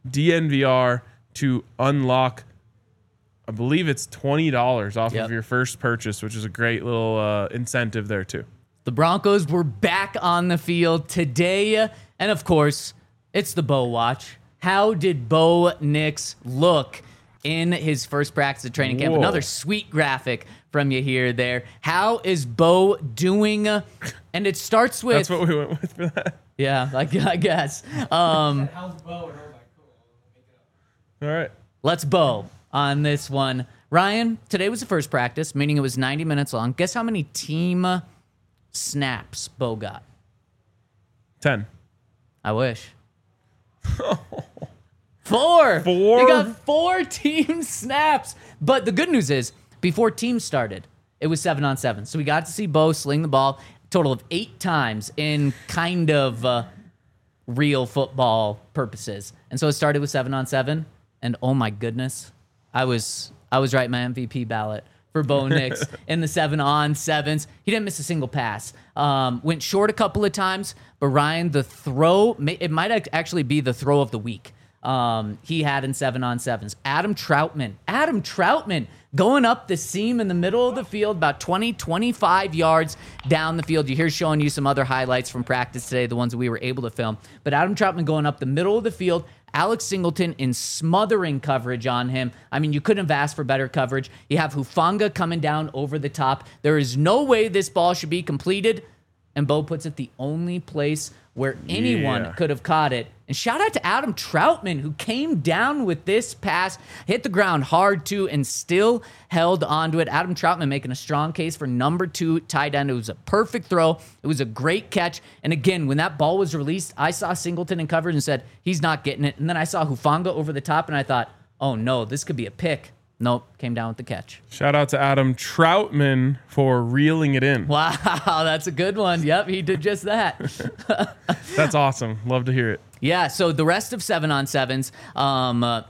D N V R to unlock, I believe it's twenty dollars off Yep. of your first purchase, which is a great little uh, incentive there too. The Broncos were back on the field today. And of course, it's the Bo Watch. How did Bo Nix look in his first practice of training camp? Whoa. Another sweet graphic from you here there. How is Bo doing? And it starts with... That's what we went with for that. Yeah, I, I guess. Um, How's Bo? And I was like, cool. Make it up. All right. let's Bo on this one. Ryan, today was the first practice, meaning it was ninety minutes long. Guess how many team snaps Bo got? ten. I wish. Four. Four? He got four team snaps. But the good news is, before teams started, it was seven on seven. So we got to see Bo sling the ball a total of eight times in kind of uh, real football purposes. And so it started with seven on seven. And oh my goodness, I was I was right, my M V P ballot for Bo Nix in the seven on sevens. He didn't miss a single pass. Um, went short a couple of times, but Ryan, the throw, it might ac- actually be the throw of the week. Um, he had in seven on sevens. Adam Troutman, Adam Troutman going up the seam in the middle of the field, about twenty, twenty-five yards down the field. You hear showing you some other highlights from practice today, the ones that we were able to film. But Adam Troutman going up the middle of the field, Alex Singleton in smothering coverage on him. I mean, you couldn't have asked for better coverage. You have Hufanga coming down over the top. There is no way this ball should be completed. And Bo puts it the only place where anyone Yeah. could have caught it. And shout out to Adam Troutman, who came down with this pass, hit the ground hard too, and still held onto it. Adam Troutman making a strong case for number two tight end. It was a perfect throw. It was a great catch. And again, when that ball was released, I saw Singleton in coverage and said, he's not getting it. And then I saw Hufanga over the top, and I thought, oh no, this could be a pick. Nope, came down with the catch. Shout out to Adam Troutman for reeling it in. Wow, that's a good one. Yep, he did just that. That's awesome. Love to hear it. Yeah, so the rest of seven on sevens, um, uh,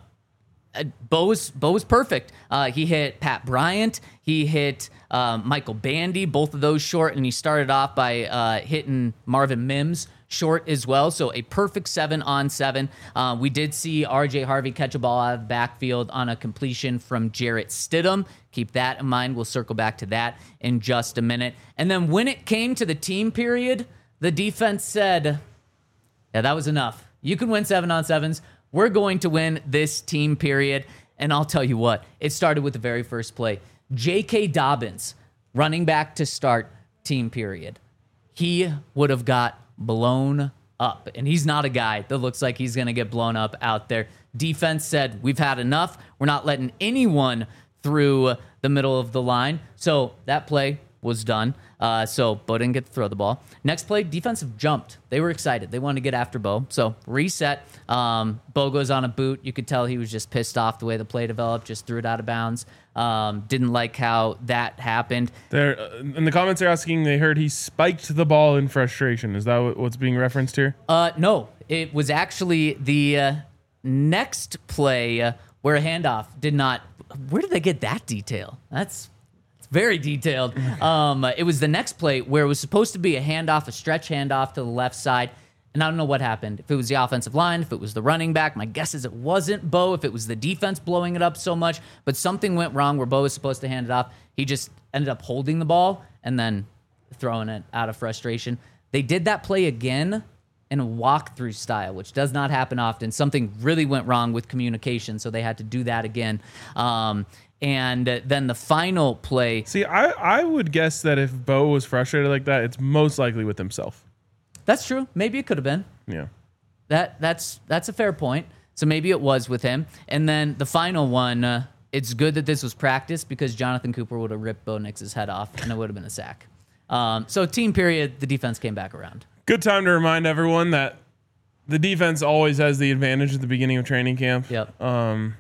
Bo was, Bo was perfect. Uh, he hit Pat Bryant. He hit uh, Michael Bandy, both of those short, and he started off by uh, hitting Marvin Mims short as well. So a perfect seven on seven. Uh, we did see R J Harvey catch a ball out of the backfield on a completion from Jarrett Stidham. Keep that in mind. We'll circle back to that in just a minute. And then when it came to the team period, the defense said, yeah, that was enough. You can win seven on sevens. We're going to win this team period. And I'll tell you what, it started with the very first play. J K. Dobbins, running back to start team period. He would have got blown up. And he's not a guy that looks like he's going to get blown up out there. Defense said, we've had enough. We're not letting anyone through the middle of the line. So that play was done. Uh, so Bo didn't get to throw the ball. Next play, defensive jumped. They were excited. They wanted to get after Bo. So reset. Um, Bo goes on a boot. You could tell he was just pissed off the way the play developed. Just threw it out of bounds. Um, didn't like how that happened. There, uh, in the comments, they're asking. They heard he spiked the ball in frustration. Is that what- what's being referenced here? Uh, no, it was actually the uh, next play uh, where a handoff did not. Where did they get that detail? That's very detailed. Um, it was the next play where it was supposed to be a handoff, a stretch handoff to the left side. And I don't know what happened. If it was the offensive line, if it was the running back, my guess is it wasn't Bo, if it was the defense blowing it up so much, but something went wrong where Bo was supposed to hand it off. He just ended up holding the ball and then throwing it out of frustration. They did that play again in a walkthrough style, which does not happen often. Something really went wrong with communication, so they had to do that again. Um, And then the final play. See, I, I would guess that if Bo was frustrated like that, it's most likely with himself. That's true. Maybe it could have been. Yeah. That that's that's a fair point. So maybe it was with him. And then the final one. Uh, it's good that this was practice because Jonathan Cooper would have ripped Bo Nix's head off, and it would have been a sack. Um, so team period, the defense came back around. Good time to remind everyone that the defense always has the advantage at the beginning of training camp. Yep. Um,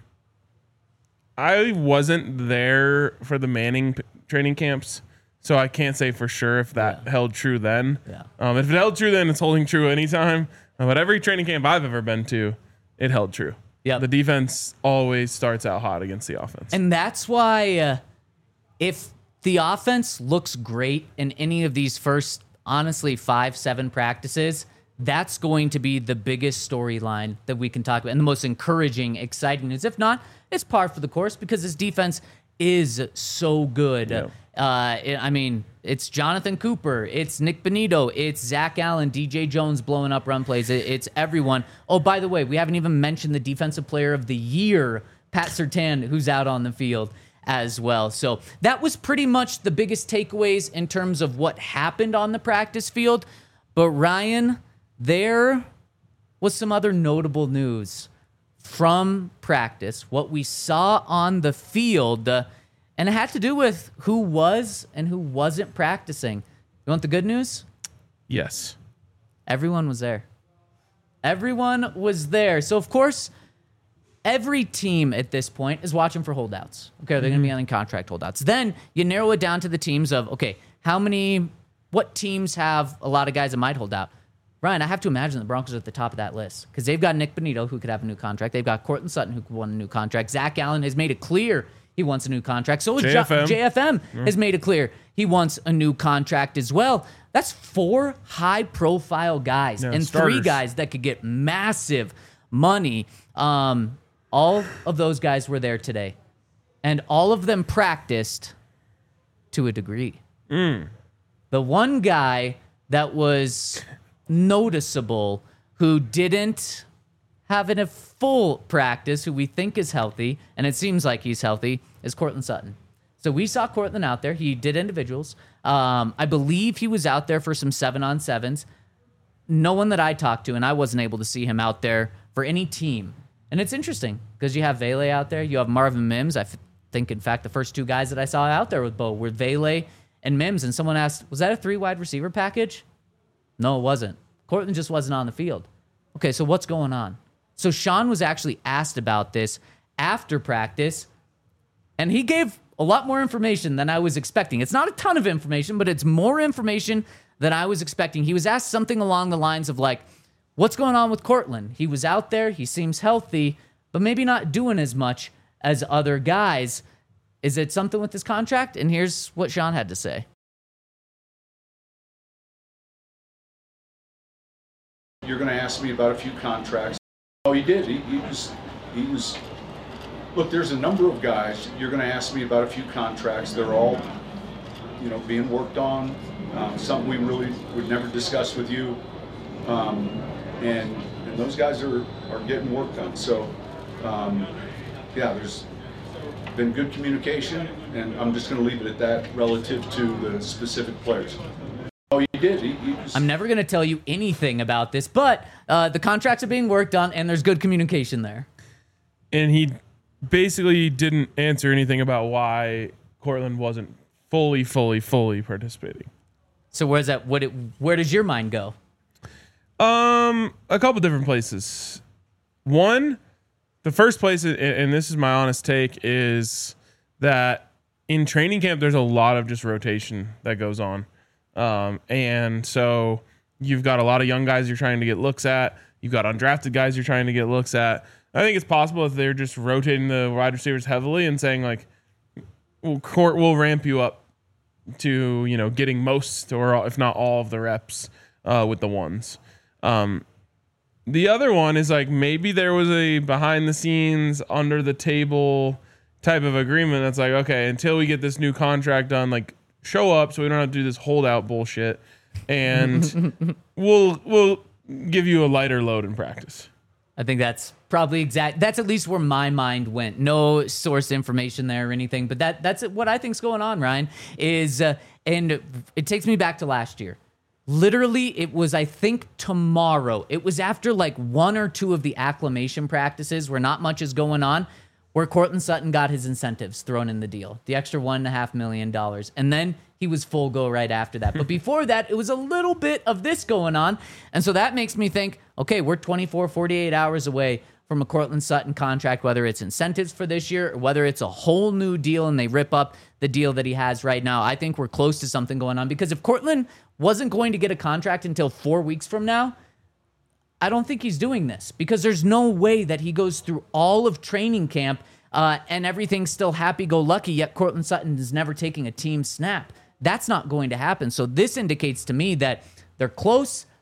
I wasn't there for the Manning p- training camps, so I can't say for sure if that Yeah. held true then. Yeah. Um, if it held true then, it's holding true anytime. Uh, but every training camp I've ever been to, it held true. Yep. The defense always starts out hot against the offense. And that's why uh, if the offense looks great in any of these first, honestly, five, seven practices, That's going to be the biggest storyline that we can talk about, and the most encouraging, exciting news. If not, it's par for the course because his defense is so good. Yeah. Uh, it- I mean, it's Jonathan Cooper, it's Nick Bonito, it's Zach Allen, D J Jones blowing up run plays. It- it's everyone. Oh, by the way, we haven't even mentioned the Defensive Player of the Year, Pat Surtain, who's out on the field as well. So that was pretty much the biggest takeaways in terms of what happened on the practice field. But Ryan, there was some other notable news from practice, what we saw on the field, uh, and it had to do with who was and who wasn't practicing. You want the good news? Yes. Everyone was there. Everyone was there. So, of course, every team at this point is watching for holdouts. Okay, they're going to be on contract holdouts. Then you narrow it down to the teams of, okay, how many, what teams have a lot of guys that might hold out? Ryan, I have to imagine the Broncos are at the top of that list because they've got Nick Bonito, who could have a new contract. They've got Cortland Sutton, who could want a new contract. Zach Allen has made it clear he wants a new contract. So is J F M. J F M has made it clear he wants a new contract as well. That's four high-profile guys Yeah, and starters. three guys that could get massive money. Um, all of those guys were there today, and all of them practiced to a degree. Mm. The one guy that was noticeable who didn't have in a full practice, who we think is healthy, and it seems like he's healthy, is Cortland Sutton. So we saw Cortland out there. He did individuals. Um, I believe he was out there for some seven-on-sevens. No one that I talked to, and I wasn't able to see him out there for any team. And it's interesting because you have Vele out there. You have Marvin Mims. I f- think, in fact, the first two guys that I saw out there with Bo were Vele and Mims. And someone asked, was that a three-wide receiver package? No, it wasn't. Cortland just wasn't on the field. Okay, so what's going on? So Sean was actually asked about this after practice, and he gave a lot more information than I was expecting. It's not a ton of information, but it's more information than I was expecting. He was asked something along the lines of like, what's going on with Cortland? He was out there, he seems healthy, but maybe not doing as much as other guys. Is it something with his contract? And here's what Sean had to say. You're going to ask me about a few contracts. Oh, he did. He, he was, he was, look, there's a number of guys. You're going to ask me about a few contracts. They're all, you know, being worked on. Um, something we really would never discuss with you. Um, and, and those guys are, are getting worked on. So, um, yeah, there's been good communication, and I'm just going to leave it at that relative to the specific players. Oh, he did. He, he was, I'm never going to tell you anything about this, but uh, the contracts are being worked on, and there's good communication there. And he basically didn't answer anything about why Cortland wasn't fully, fully, fully participating. So where's that? What? It, where does your mind go? Um, a couple different places. One, the first place, and- and this is my honest take, is that in training camp there's a lot of just rotation that goes on. Um, and so you've got a lot of young guys you're trying to get looks at. You've got undrafted guys you're trying to get looks at. I think it's possible if they're just rotating the wide receivers heavily and saying like, "Well, court will ramp you up to, you know, getting most or if not all of the reps uh, with the ones." Um, the other one is like maybe there was a behind the scenes, under the table type of agreement that's like, okay, until we get this new contract done, like, show up so we don't have to do this holdout bullshit, and we'll we'll give you a lighter load in practice. I think that's probably exact. That's at least where my mind went. No source information there or anything, but that that's what I think's going on, Ryan, is, uh, and it takes me back to last year. Literally, it was, I think, tomorrow. It was after like one or two of the acclimation practices where not much is going on, where Cortland Sutton got his incentives thrown in the deal, the extra one and a half million dollars. And then he was full go right after that. But before that, it was a little bit of this going on. And so that makes me think, okay, we're twenty-four, forty-eight hours away from a Cortland Sutton contract, whether it's incentives for this year or whether it's a whole new deal and they rip up the deal that he has right now. I think we're close to something going on, because if Cortland wasn't going to get a contract until four weeks from now, I don't think he's doing this, because there's no way that he goes through all of training camp uh, and everything's still happy-go-lucky, yet Cortland Sutton is never taking a team snap. That's not going to happen. So this indicates to me that they're close,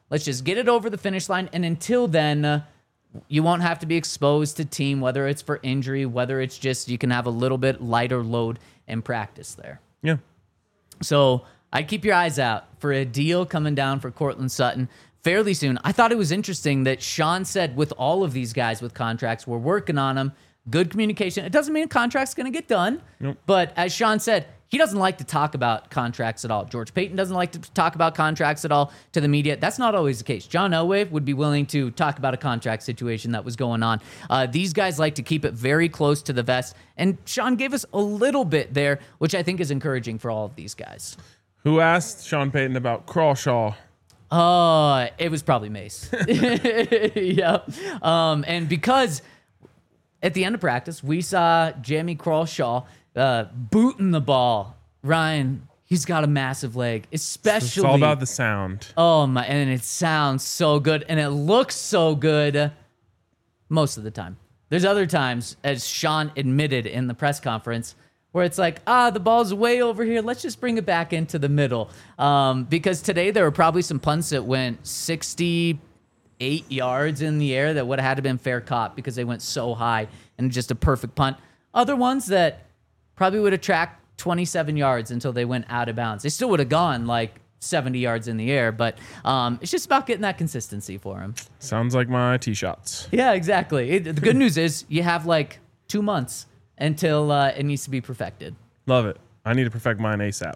Let's just get it over the finish line. And until then, uh, you won't have to be exposed to team, whether it's for injury, whether it's just you can have a little bit lighter load in practice there. Yeah. So I'd keep your eyes out for a deal coming down for Cortland Sutton fairly soon. I thought it was interesting that Sean said with all of these guys with contracts, we're working on them. Good communication. It doesn't mean a contract's going to get done. Nope. But as Sean said, he doesn't like to talk about contracts at all. George Payton doesn't like to talk about contracts at all to the media. That's not always the case. John Elway would be willing to talk about a contract situation that was going on. Uh, these guys like to keep it very close to the vest. And Sean gave us a little bit there, which I think is encouraging for all of these guys. Who asked Sean Payton about Crawshaw? Oh, it was probably Mace. Yeah. Um, and because at the end of practice, we saw Jamie Crawshaw uh, booting the ball. Ryan, he's got a massive leg, especially. It's all about the sound. Oh, my. And it sounds so good. And it looks so good most of the time. There's other times, as Sean admitted in the press conference, where it's like, ah, the ball's way over here. Let's just bring it back into the middle. Um, because today there were probably some punts that went sixty-eight yards in the air that would have had to been fair caught because they went so high and just a perfect punt. Other ones that probably would have tracked twenty-seven yards until they went out of bounds. They still would have gone like seventy yards in the air, but um, it's just about getting that consistency for him. Sounds like my tee shots. Yeah, exactly. It, the good news is you have like two months until uh, it needs to be perfected. Love it. I need to perfect mine ASAP.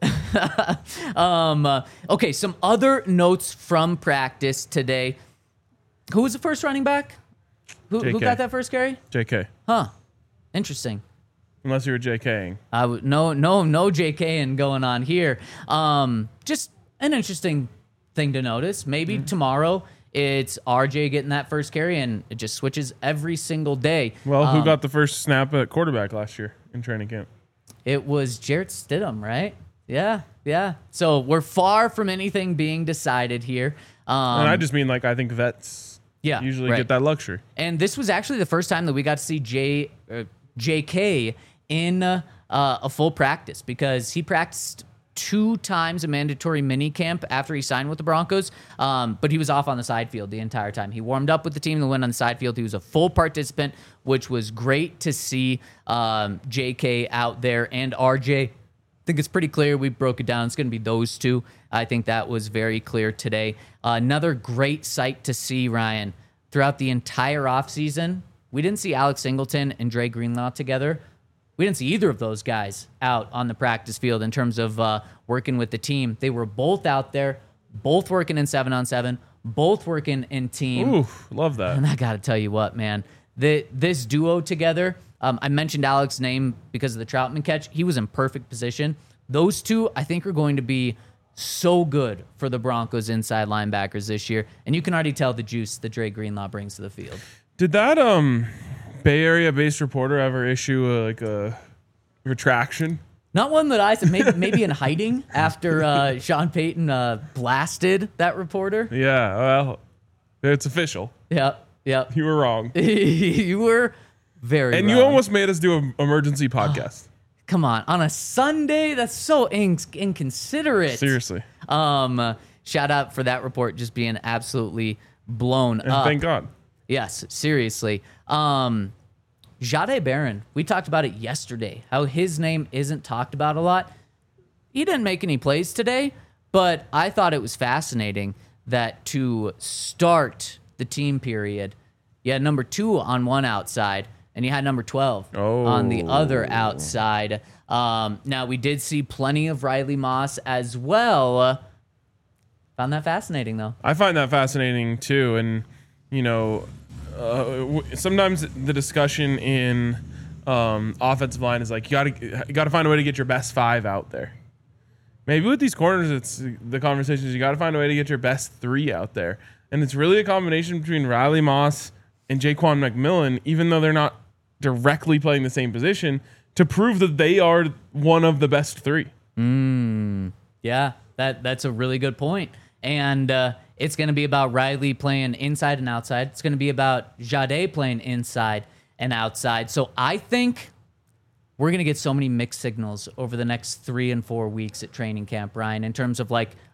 um, uh, okay, some other notes from practice today. Who was the first running back? Who, who got that first carry? J K. Huh. Interesting. Unless you were JKing. I w- no, no, no JKing going on here. Um, just an interesting thing to notice. Maybe mm-hmm. tomorrow it's R J getting that first carry, and it just switches every single day. Well, who um, got the first snap at quarterback last year in training camp? It was Jarrett Stidham, right? Yeah, yeah. So we're far from anything being decided here. Um, and I just mean, like, I think vets yeah, usually right. get that luxury. And this was actually the first time that we got to see J, uh, J K in uh, a full practice, because he practiced two times a mandatory mini camp after he signed with the Broncos, um, but he was off on the side field the entire time. He warmed up with the team and went on the side field. He was a full participant, which was great to see um, J K out there, and R J. I think it's pretty clear. We broke it down. It's going to be those two. I think that was very clear today. Uh, another great sight to see, Ryan, throughout the entire offseason. We didn't see Alex Singleton and Dre Greenlaw together. We didn't see either of those guys out on the practice field in terms of uh, working with the team. They were both out there, both working in seven on seven, both working in team. Ooh, love that. And I got to tell you what, man, the, this duo together, um, I mentioned Alex's name because of the Troutman catch. He was in perfect position. Those two, I think, are going to be so good for the Broncos inside linebackers this year. And you can already tell the juice that Dre Greenlaw brings to the field. Did that um Bay Area-based reporter ever issue a, like a retraction? Not one that I said. Maybe, maybe in hiding after uh, Sean Payton uh, blasted that reporter. Yeah, well, it's official. Yep, yep. You were wrong. You were very And wrong. you almost made us do an emergency podcast. Come on, on a Sunday? That's so in- inconsiderate. Seriously. Um, uh, shout out for that report just being absolutely blown And up. thank God. Yes, seriously. Um, Jahdae Barron, we talked about it yesterday, how his name isn't talked about a lot. He didn't make any plays today, but I thought it was fascinating that to start the team period, you had number two on one outside, and you had number twelve oh. on the other outside. Um, now, we did see plenty of Riley Moss as well. Found that fascinating, though. I find that fascinating, too, and you know, uh, w- sometimes the discussion in um, offensive line is like you got to you got to find a way to get your best five out there. Maybe with these corners, it's the conversation is you got to find a way to get your best three out there, and it's really a combination between Riley Moss and Jaquan McMillan, even though they're not directly playing the same position, to prove that they are one of the best three. Mm, yeah, that that's a really good point. And uh, it's going to be about Riley playing inside and outside. It's going to be about Jahdae playing inside and outside. So I think we're going to get so many mixed signals over the next three and four weeks at training camp, Ryan, in terms of like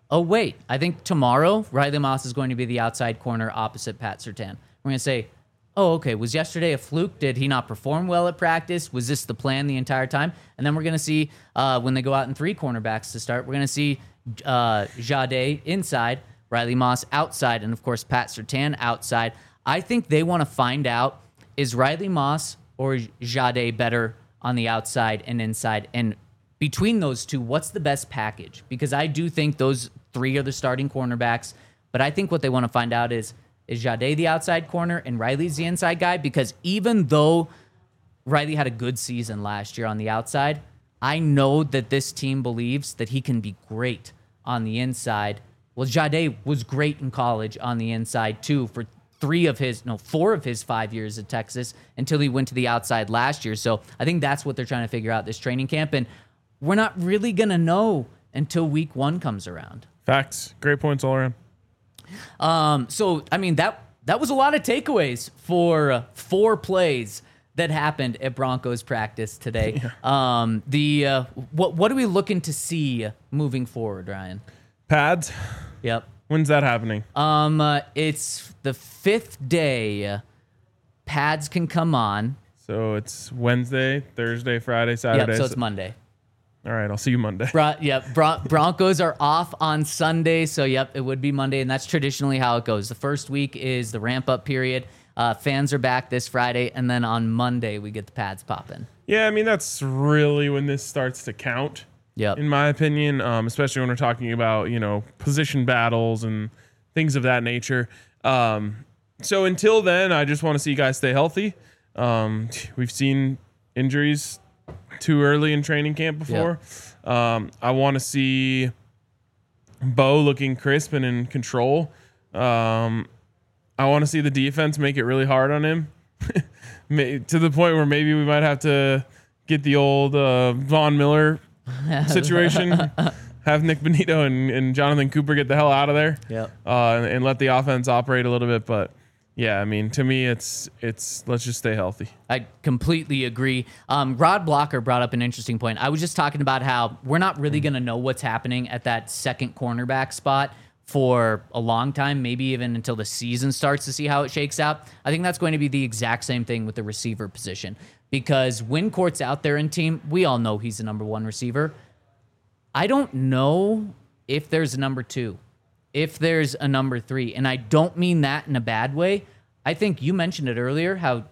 oh, wait, I think tomorrow Riley Moss is going to be the outside corner opposite Pat Surtain. We're going to say, oh, okay, was yesterday a fluke? Did he not perform well at practice? Was this the plan the entire time? And then we're going to see uh, when they go out in three cornerbacks to start, we're going to see uh, Jade inside, Riley Moss outside, and of course Pat Surtain outside. I think they want to find out, is Riley Moss or Jade better on the outside and inside? And between those two, what's the best package? Because I do think those three are the starting cornerbacks, but I think what they want to find out is, is Jade the outside corner and Riley's the inside guy? Because even though Riley had a good season last year on the outside, I know that this team believes that he can be great on the inside. Well, Jade was great in college on the inside too for three of his, no, four of his five years at Texas until he went to the outside last year. So I think that's what they're trying to figure out this training camp. And we're not really going to know until week one comes around. Facts. Great points all around. Um, so, I mean, that that was a lot of takeaways for uh, four plays that happened at Broncos practice today. Yeah. Um, the uh, what what are we looking to see moving forward, Ryan? Pads. Yep. When's that happening? Um, uh, it's the fifth day. Pads can come on. So it's Wednesday, Thursday, Friday, Saturday. Yep, so it's Monday. All right, I'll see you Monday. Bron- yep, Bron- Broncos are off on Sunday, so yep, it would be Monday, and that's traditionally how it goes. The first week is the ramp-up period. Uh, fans are back this Friday, and then on Monday we get the pads popping. Yeah, I mean, that's really when this starts to count, yep. in my opinion, um, especially when we're talking about, you know, position battles and things of that nature. Um, so until then, I just want to see you guys stay healthy. Um, we've seen injuries too early in training camp before. Yep. Um, I want to see Bo looking crisp and in control. Um, I want to see the defense make it really hard on him to the point where maybe we might have to get the old uh, Von Miller situation, have Nick Benito and, and Jonathan Cooper get the hell out of there, yep. uh, and, and let the offense operate a little bit. But yeah, I mean, to me, it's it's let's just stay healthy. I completely agree. Um, Rod Blocker brought up an interesting point. I was just talking about how we're not really going to know what's happening at that second cornerback spot for a long time, maybe even until the season starts to see how it shakes out. I think that's going to be the exact same thing with the receiver position, because when Court's out there in team, we all know he's the number one receiver. I don't know if there's a number two, if there's a number three, and I don't mean that in a bad way. I think you mentioned it earlier, how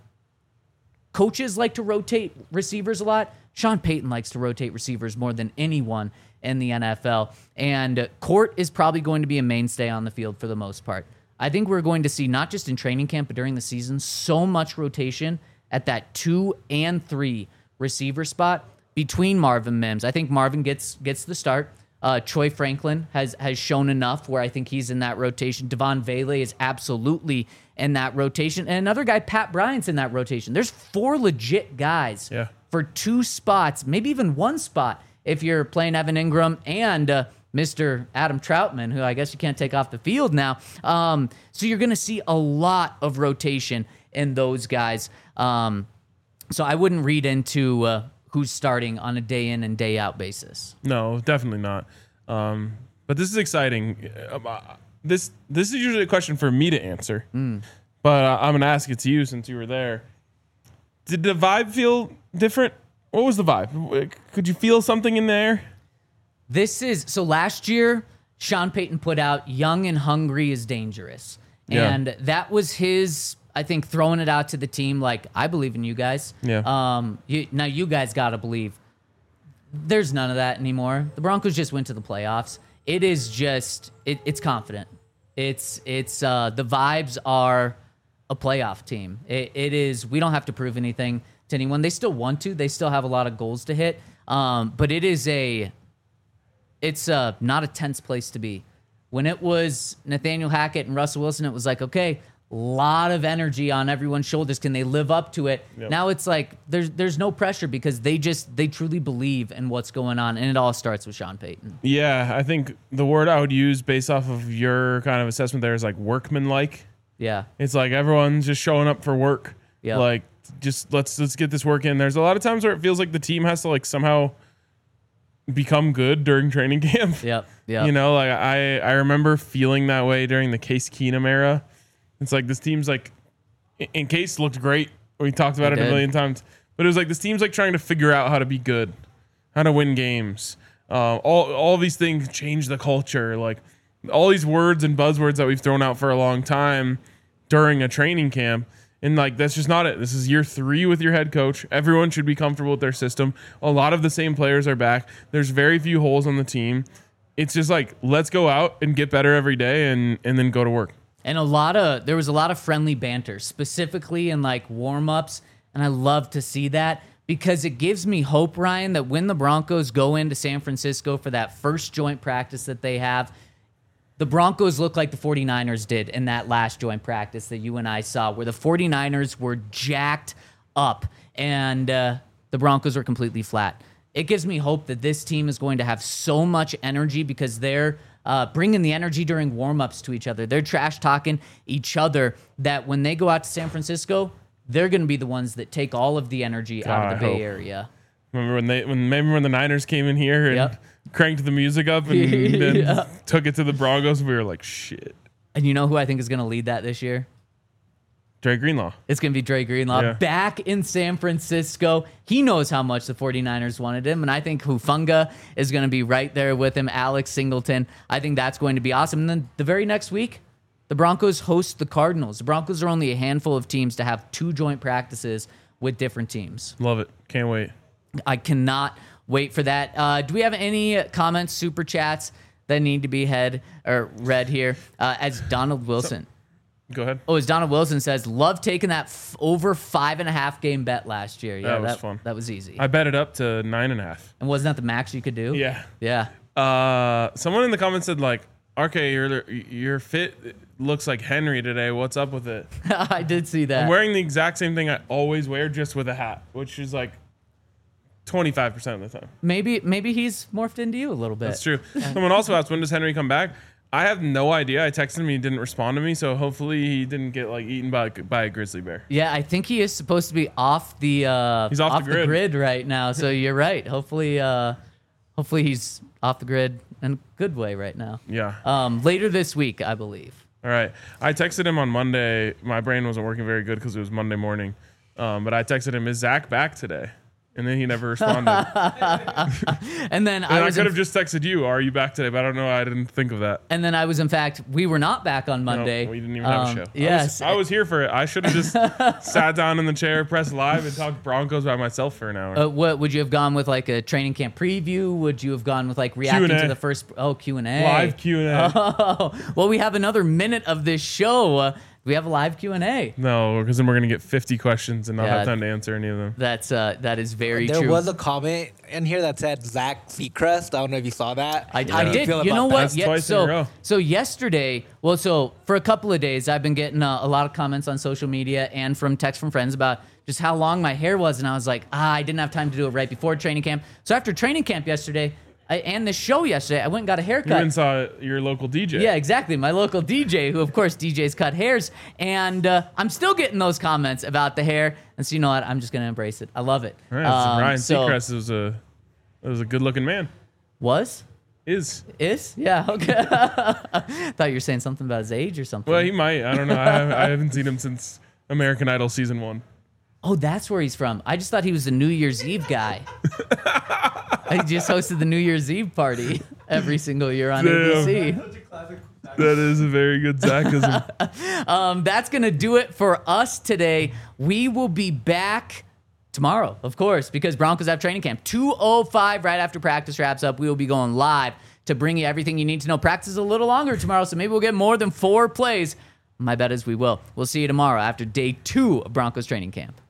coaches like to rotate receivers a lot. Sean Payton likes to rotate receivers more than anyone in the N F L. And Court is probably going to be a mainstay on the field for the most part. I think we're going to see, not just in training camp, but during the season, so much rotation at that two and three receiver spot between Marvin Mims. I think Marvin gets gets the start. Uh, Troy Franklin has has shown enough where I think he's in that rotation. Devon Vele is absolutely in that rotation. And another guy, Pat Bryant's in that rotation. There's four legit guys yeah. for two spots, maybe even one spot if you're playing Evan Ingram and uh, Mister Adam Troutman, who I guess you can't take off the field now. Um, so you're going to see a lot of rotation in those guys. Um, so I wouldn't read into uh, who's starting on a day in and day out basis. No, definitely not. Um, but this is exciting. Uh, this this is usually a question for me to answer, mm. but uh, I'm going to ask it to you since you were there. Did the vibe feel different? What was the vibe? Could you feel something in there? This is, so last year, Sean Payton put out Young and Hungry is Dangerous. Yeah. And that was his, I think, throwing it out to the team like, I believe in you guys. Yeah. Um. You, now you guys got to believe. There's none of that anymore. The Broncos just went to the playoffs. It is just, it, it's confident. It's, it's, uh, the vibes are a playoff team. It, it is, we don't have to prove anything to anyone. They still want to. They still have a lot of goals to hit. Um, but it is a, it's a, not a tense place to be. When it was Nathaniel Hackett and Russell Wilson, it was like, okay, a lot of energy on everyone's shoulders. Can they live up to it? Yep. Now it's like there's there's no pressure because they just they truly believe in what's going on, and it all starts with Sean Payton. Yeah, I think the word I would use based off of your kind of assessment there is like workmanlike. Yeah, it's like everyone's just showing up for work. Yeah, like just let's let's get this work in. There's a lot of times where it feels like the team has to like somehow become good during training camp. Yep. Yep. You know, like I, I remember feeling that way during the Case Keenum era. It's like this team's like, and Case looked great. We talked about It it, did. a million times, but it was like this team's like trying to figure out how to be good, how to win games. Uh, all all these things change the culture. Like all these words and buzzwords that we've thrown out for a long time during a training camp. And like that's just not it. This is year three with your head coach. Everyone should be comfortable with their system. A lot of the same players are back. There's very few holes on the team. It's just like let's go out and get better every day, and and then go to work. And a lot of there was a lot of friendly banter, specifically in like warm-ups, and I love to see that because it gives me hope, Ryan, that when the Broncos go into San Francisco for that first joint practice that they have, the Broncos look like the 49ers did in that last joint practice that you and I saw, where the 49ers were jacked up and uh, the Broncos were completely flat. It gives me hope that this team is going to have so much energy because they're uh, bringing the energy during warm-ups to each other. They're trash-talking each other that when they go out to San Francisco, they're going to be the ones that take all of the energy out God, of I the Bay hope. Area. Remember when they when remember when the Niners came in here and Yep. cranked the music up and then Yeah. took it to the Broncos? We were like, shit. And you know who I think is going to lead that this year? Dre Greenlaw. It's going to be Dre Greenlaw Yeah. back in San Francisco. He knows how much the 49ers wanted him, and I think Hufanga is going to be right there with him, Alex Singleton. I think that's going to be awesome. And then the very next week, the Broncos host the Cardinals. The Broncos are only a handful of teams to have two joint practices with different teams. Love it. Can't wait. I cannot wait for that. Uh, do we have any comments, super chats that need to be head or read here? Uh, as Donald Wilson. Go ahead. Oh, as Donald Wilson says, love taking that f- over five and a half game bet last year. Yeah, That was fun. That was easy. I bet it up to nine and a half. and wasn't that the max you could do? Yeah. Yeah. Uh, someone in the comments said like, R K, your your fit looks like Henry today. What's up with it? I did see that. I'm wearing the exact same thing I always wear, just with a hat, which is like twenty-five percent of the time. maybe maybe he's morphed into you a little bit. That's true. Someone also asked, when does Henry come back? I have no idea. I texted him, he didn't respond to me, so hopefully he didn't get like eaten by by a grizzly bear. Yeah, I think he is supposed to be off the uh, He's off the grid. right now. So you're right. Hopefully, uh, hopefully he's off the grid in a good way right now. Yeah. Um, later this week, I believe. All right. I texted him on Monday. My brain wasn't working very good because it was Monday morning. Um, but I texted him, is Zach back today? And then he never responded. And then And I I was could in, have just texted you, are you back today? But I don't know. I didn't think of that. and then I was in fact we were not back on Monday. No, we didn't even have Um, a show. Yes. I was, I was here for it. I should have just sat down in the chair, pressed live, and talked Broncos by myself for an hour. Uh, what would you have gone with, like a training camp preview? Would you have gone with like reacting Q and A. to the first? Oh, Q and A. Live Q and A. Oh, well, we have another minute of this show. Uh, we have a live Q and A. No, because then we're going to get fifty questions and not Yeah. have time to answer any of them. That's uh, that is very There true. was a comment in here that said Zach Seacrest. I don't know if you saw that. I, How I do did. feel You about know that? what? That's Yeah, twice in so, a row. so yesterday, well, so for a couple of days, I've been getting uh, a lot of comments on social media and from texts from friends about just how long my hair was, and I was like, ah, I didn't have time to do it right before training camp. So after training camp yesterday, I, and the show yesterday, I went and got a You haircut. even saw your local D J. Yeah, exactly. My local D J, who of course D Js cut hairs, and uh, I'm still getting those comments about the hair. And so you know what? I'm just gonna embrace it. I love it. Right, Um, Ryan so- Seacrest was a was a good looking man. was Is is yeah okay. Thought you were saying something about his age or something. well, he might. I don't know. I, I haven't seen him since American Idol season one. Oh, that's where he's from. I just thought he was the New Year's Eve guy. I just hosted the New Year's Eve party every single year on A B C. Such a classic. That is a very good Zachism. Um, that's going to do it for us today. We will be back tomorrow, of course, because Broncos have training camp. two oh five right after practice wraps up. We will be going live to bring you everything you need to know. Practice is a little longer tomorrow, so maybe we'll get more than four plays. My bet is we will. We'll see you tomorrow after day two of Broncos training camp.